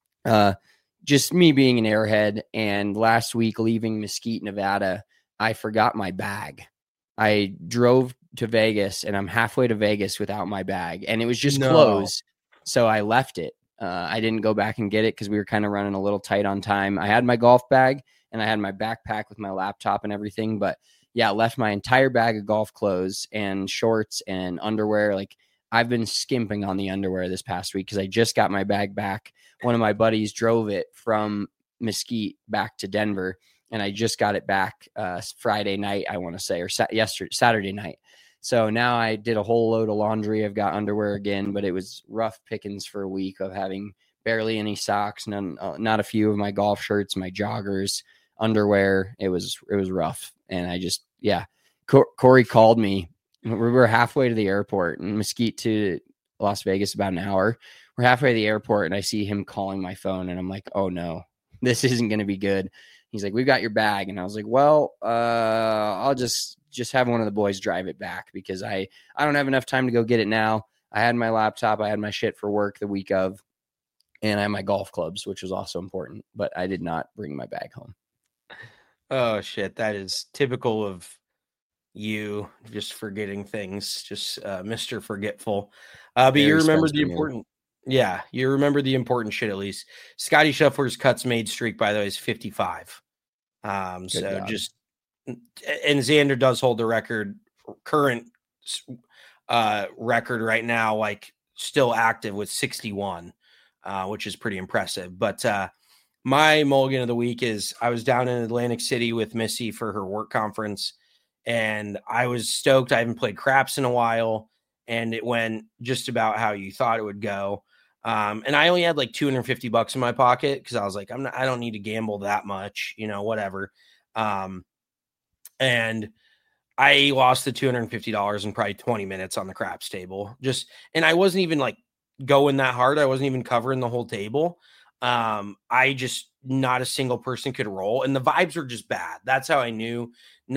Just me being an airhead, and last week leaving Mesquite, Nevada, I forgot my bag. I drove to Vegas and I'm halfway to Vegas without my bag, and it was just closed. So I left it. I didn't go back and get it because we were kind of running a little tight on time. I had my golf bag and I had my backpack with my laptop and everything, but yeah, left my entire bag of golf clothes and shorts and underwear. Like, I've been skimping on the underwear this past week because I just got my bag back. One of my buddies drove it from Mesquite back to Denver, and I just got it back Friday night, I want to say, or Saturday night. So now I did a whole load of laundry. I've got underwear again, but it was rough pickings for a week of having barely any socks, not a few of my golf shirts, my joggers, underwear. It was rough. And I just, yeah, Corey called me. We were halfway to the airport, and Mesquite to Las Vegas about an hour. We're halfway to the airport, and I see him calling my phone, and I'm like, oh no, this isn't going to be good. He's like, we've got your bag. And I was like, well, I'll just have one of the boys drive it back because I don't have enough time to go get it now. I had my laptop. I had my shit for work the week of, and I had my golf clubs, which was also important, but I did not bring my bag home. Oh shit. That is typical of you, just forgetting things, just Mr. Forgetful. But you remember the important. Yeah, you remember the important shit at least. Scotty Scheffler's cuts made streak, by the way, is 55. And Xander does hold the current record right now, like still active with 61, which is pretty impressive. But my mulligan of the week is I was down in Atlantic City with Missy for her work conference, and I was stoked. I haven't played craps in a while, and it went just about how you thought it would go. And I only had like $250 in my pocket because I was like, I don't need to gamble that much, whatever. And I lost the $250 in probably 20 minutes on the craps table. And I wasn't even like going that hard. I wasn't even covering the whole table. Not a single person could roll, and the vibes were just bad. That's how I knew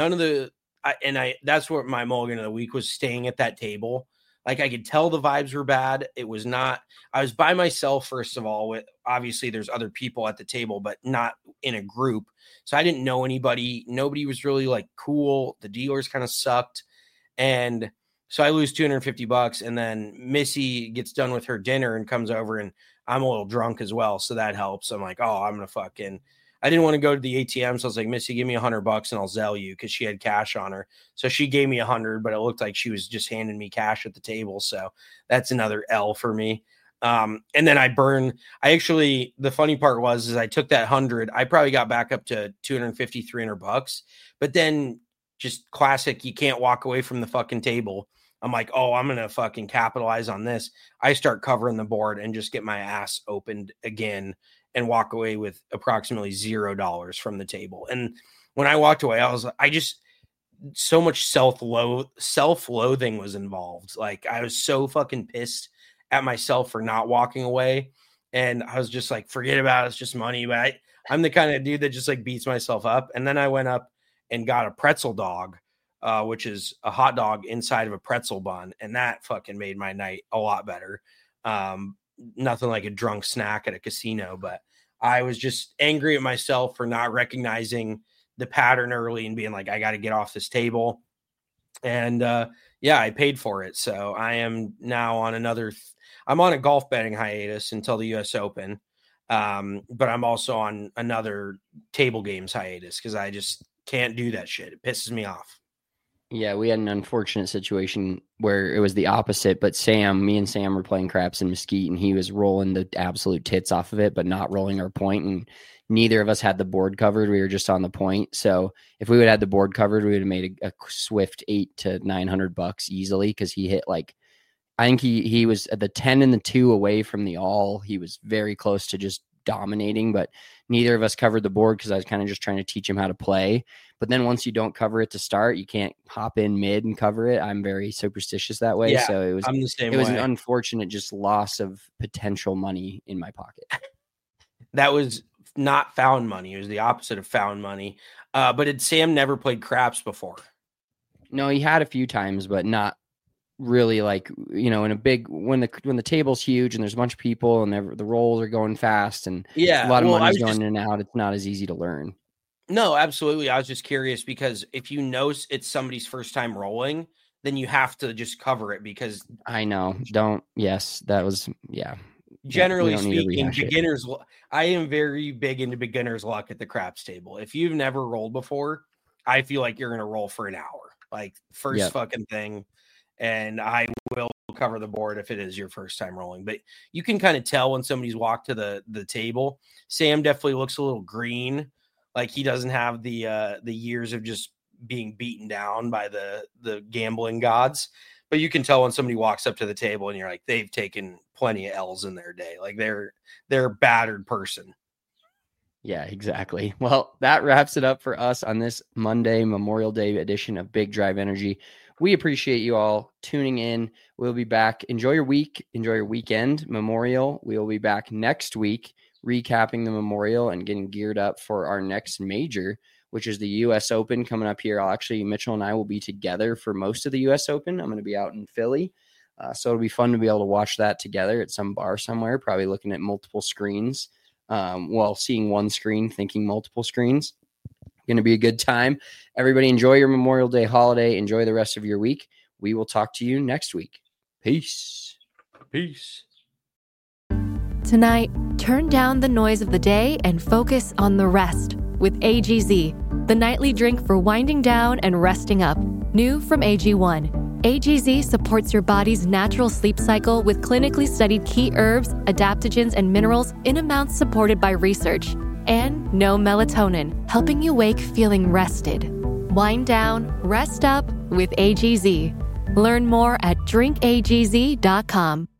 that's what my mulligan of the week was, staying at that table. Like, I could tell the vibes were bad. It was not, I was by myself, first of all, with obviously there's other people at the table, but not in a group. So I didn't know anybody. Nobody was really like cool. The dealers kind of sucked. And so I lose $250, and then Missy gets done with her dinner and comes over, and I'm a little drunk as well. So that helps. I'm like, oh, I'm going to I didn't want to go to the ATM. So I was like, Missy, give me $100 and I'll Zelle you, because she had cash on her. So she gave me $100, but it looked like she was just handing me cash at the table. So that's another L for me. And then the funny part was I took that 100. I probably got back up to $250, $300, but then just classic, you can't walk away from the fucking table. I'm like, oh, I'm going to fucking capitalize on this. I start covering the board and just get my ass opened again and walk away with approximately $0 from the table. And when I walked away, so much self-loathing was involved. Like, I was so fucking pissed at myself for not walking away. And I was just like, forget about it. It's just money. But I'm the kind of dude that just like beats myself up. And then I went up and got a pretzel dog, which is a hot dog inside of a pretzel bun. And that fucking made my night a lot better. Nothing like a drunk snack at a casino, but I was just angry at myself for not recognizing the pattern early and being like, I got to get off this table. And I paid for it. So I am now on I'm on a golf betting hiatus until the US Open. But I'm also on another table games hiatus because I just can't do that shit. It pisses me off. Yeah, we had an unfortunate situation where it was the opposite, but me and Sam were playing craps in Mesquite, and he was rolling the absolute tits off of it, but not rolling our point, and neither of us had the board covered. We were just on the point. So if we would have had the board covered, we would have made a swift $800 to $900 easily, because he hit I think he was at the 10 and the 2 away from the all. He was very close to just dominating, but neither of us covered the board because I was kind of just trying to teach him how to play. But then once you don't cover it to start, you can't hop in mid and cover it. I'm very superstitious that way. Yeah, so I'm the same way. It was an unfortunate just loss of potential money in my pocket. That was not found money. It was the opposite of found money. But had Sam never played craps before? No, he had a few times, but not really in a big, when the table's huge and there's a bunch of people and the rolls are going fast and a lot of money's going in and out, it's not as easy to learn. No, absolutely. I was just curious because if you know it's somebody's first time rolling, then you have to just cover it because I know. Generally speaking, beginners, I am very big into beginner's luck at the craps table. If you've never rolled before, I feel like you're going to roll for an hour, like first fucking thing. And I will cover the board if it is your first time rolling. But you can kind of tell when somebody's walked to the table. Sam definitely looks a little green. Like he doesn't have the years of just being beaten down by the gambling gods. But you can tell when somebody walks up to the table and you're like, they've taken plenty of L's in their day. Like they're a battered person. Yeah, exactly. Well, that wraps it up for us on this Monday, Memorial Day edition of Big Drive Energy. We appreciate you all tuning in. We'll be back. Enjoy your week. Enjoy your weekend. Memorial. We will be back next week recapping the Memorial and getting geared up for our next major, which is the U.S. Open coming up here. Mitchell and I will be together for most of the U.S. Open. I'm going to be out in Philly. So it'll be fun to be able to watch that together at some bar somewhere, probably looking at multiple screens. Seeing one screen, thinking multiple screens. Going to be a good time. Everybody enjoy your Memorial Day holiday. Enjoy the rest of your week. We will talk to you next week. Peace. Peace. Tonight, turn down the noise of the day and focus on the rest with AGZ, the nightly drink for winding down and resting up. New from AG1. AGZ supports your body's natural sleep cycle with clinically studied key herbs, adaptogens, and minerals in amounts supported by research. And no melatonin, helping you wake feeling rested. Wind down, rest up with AGZ. Learn more at drinkagz.com.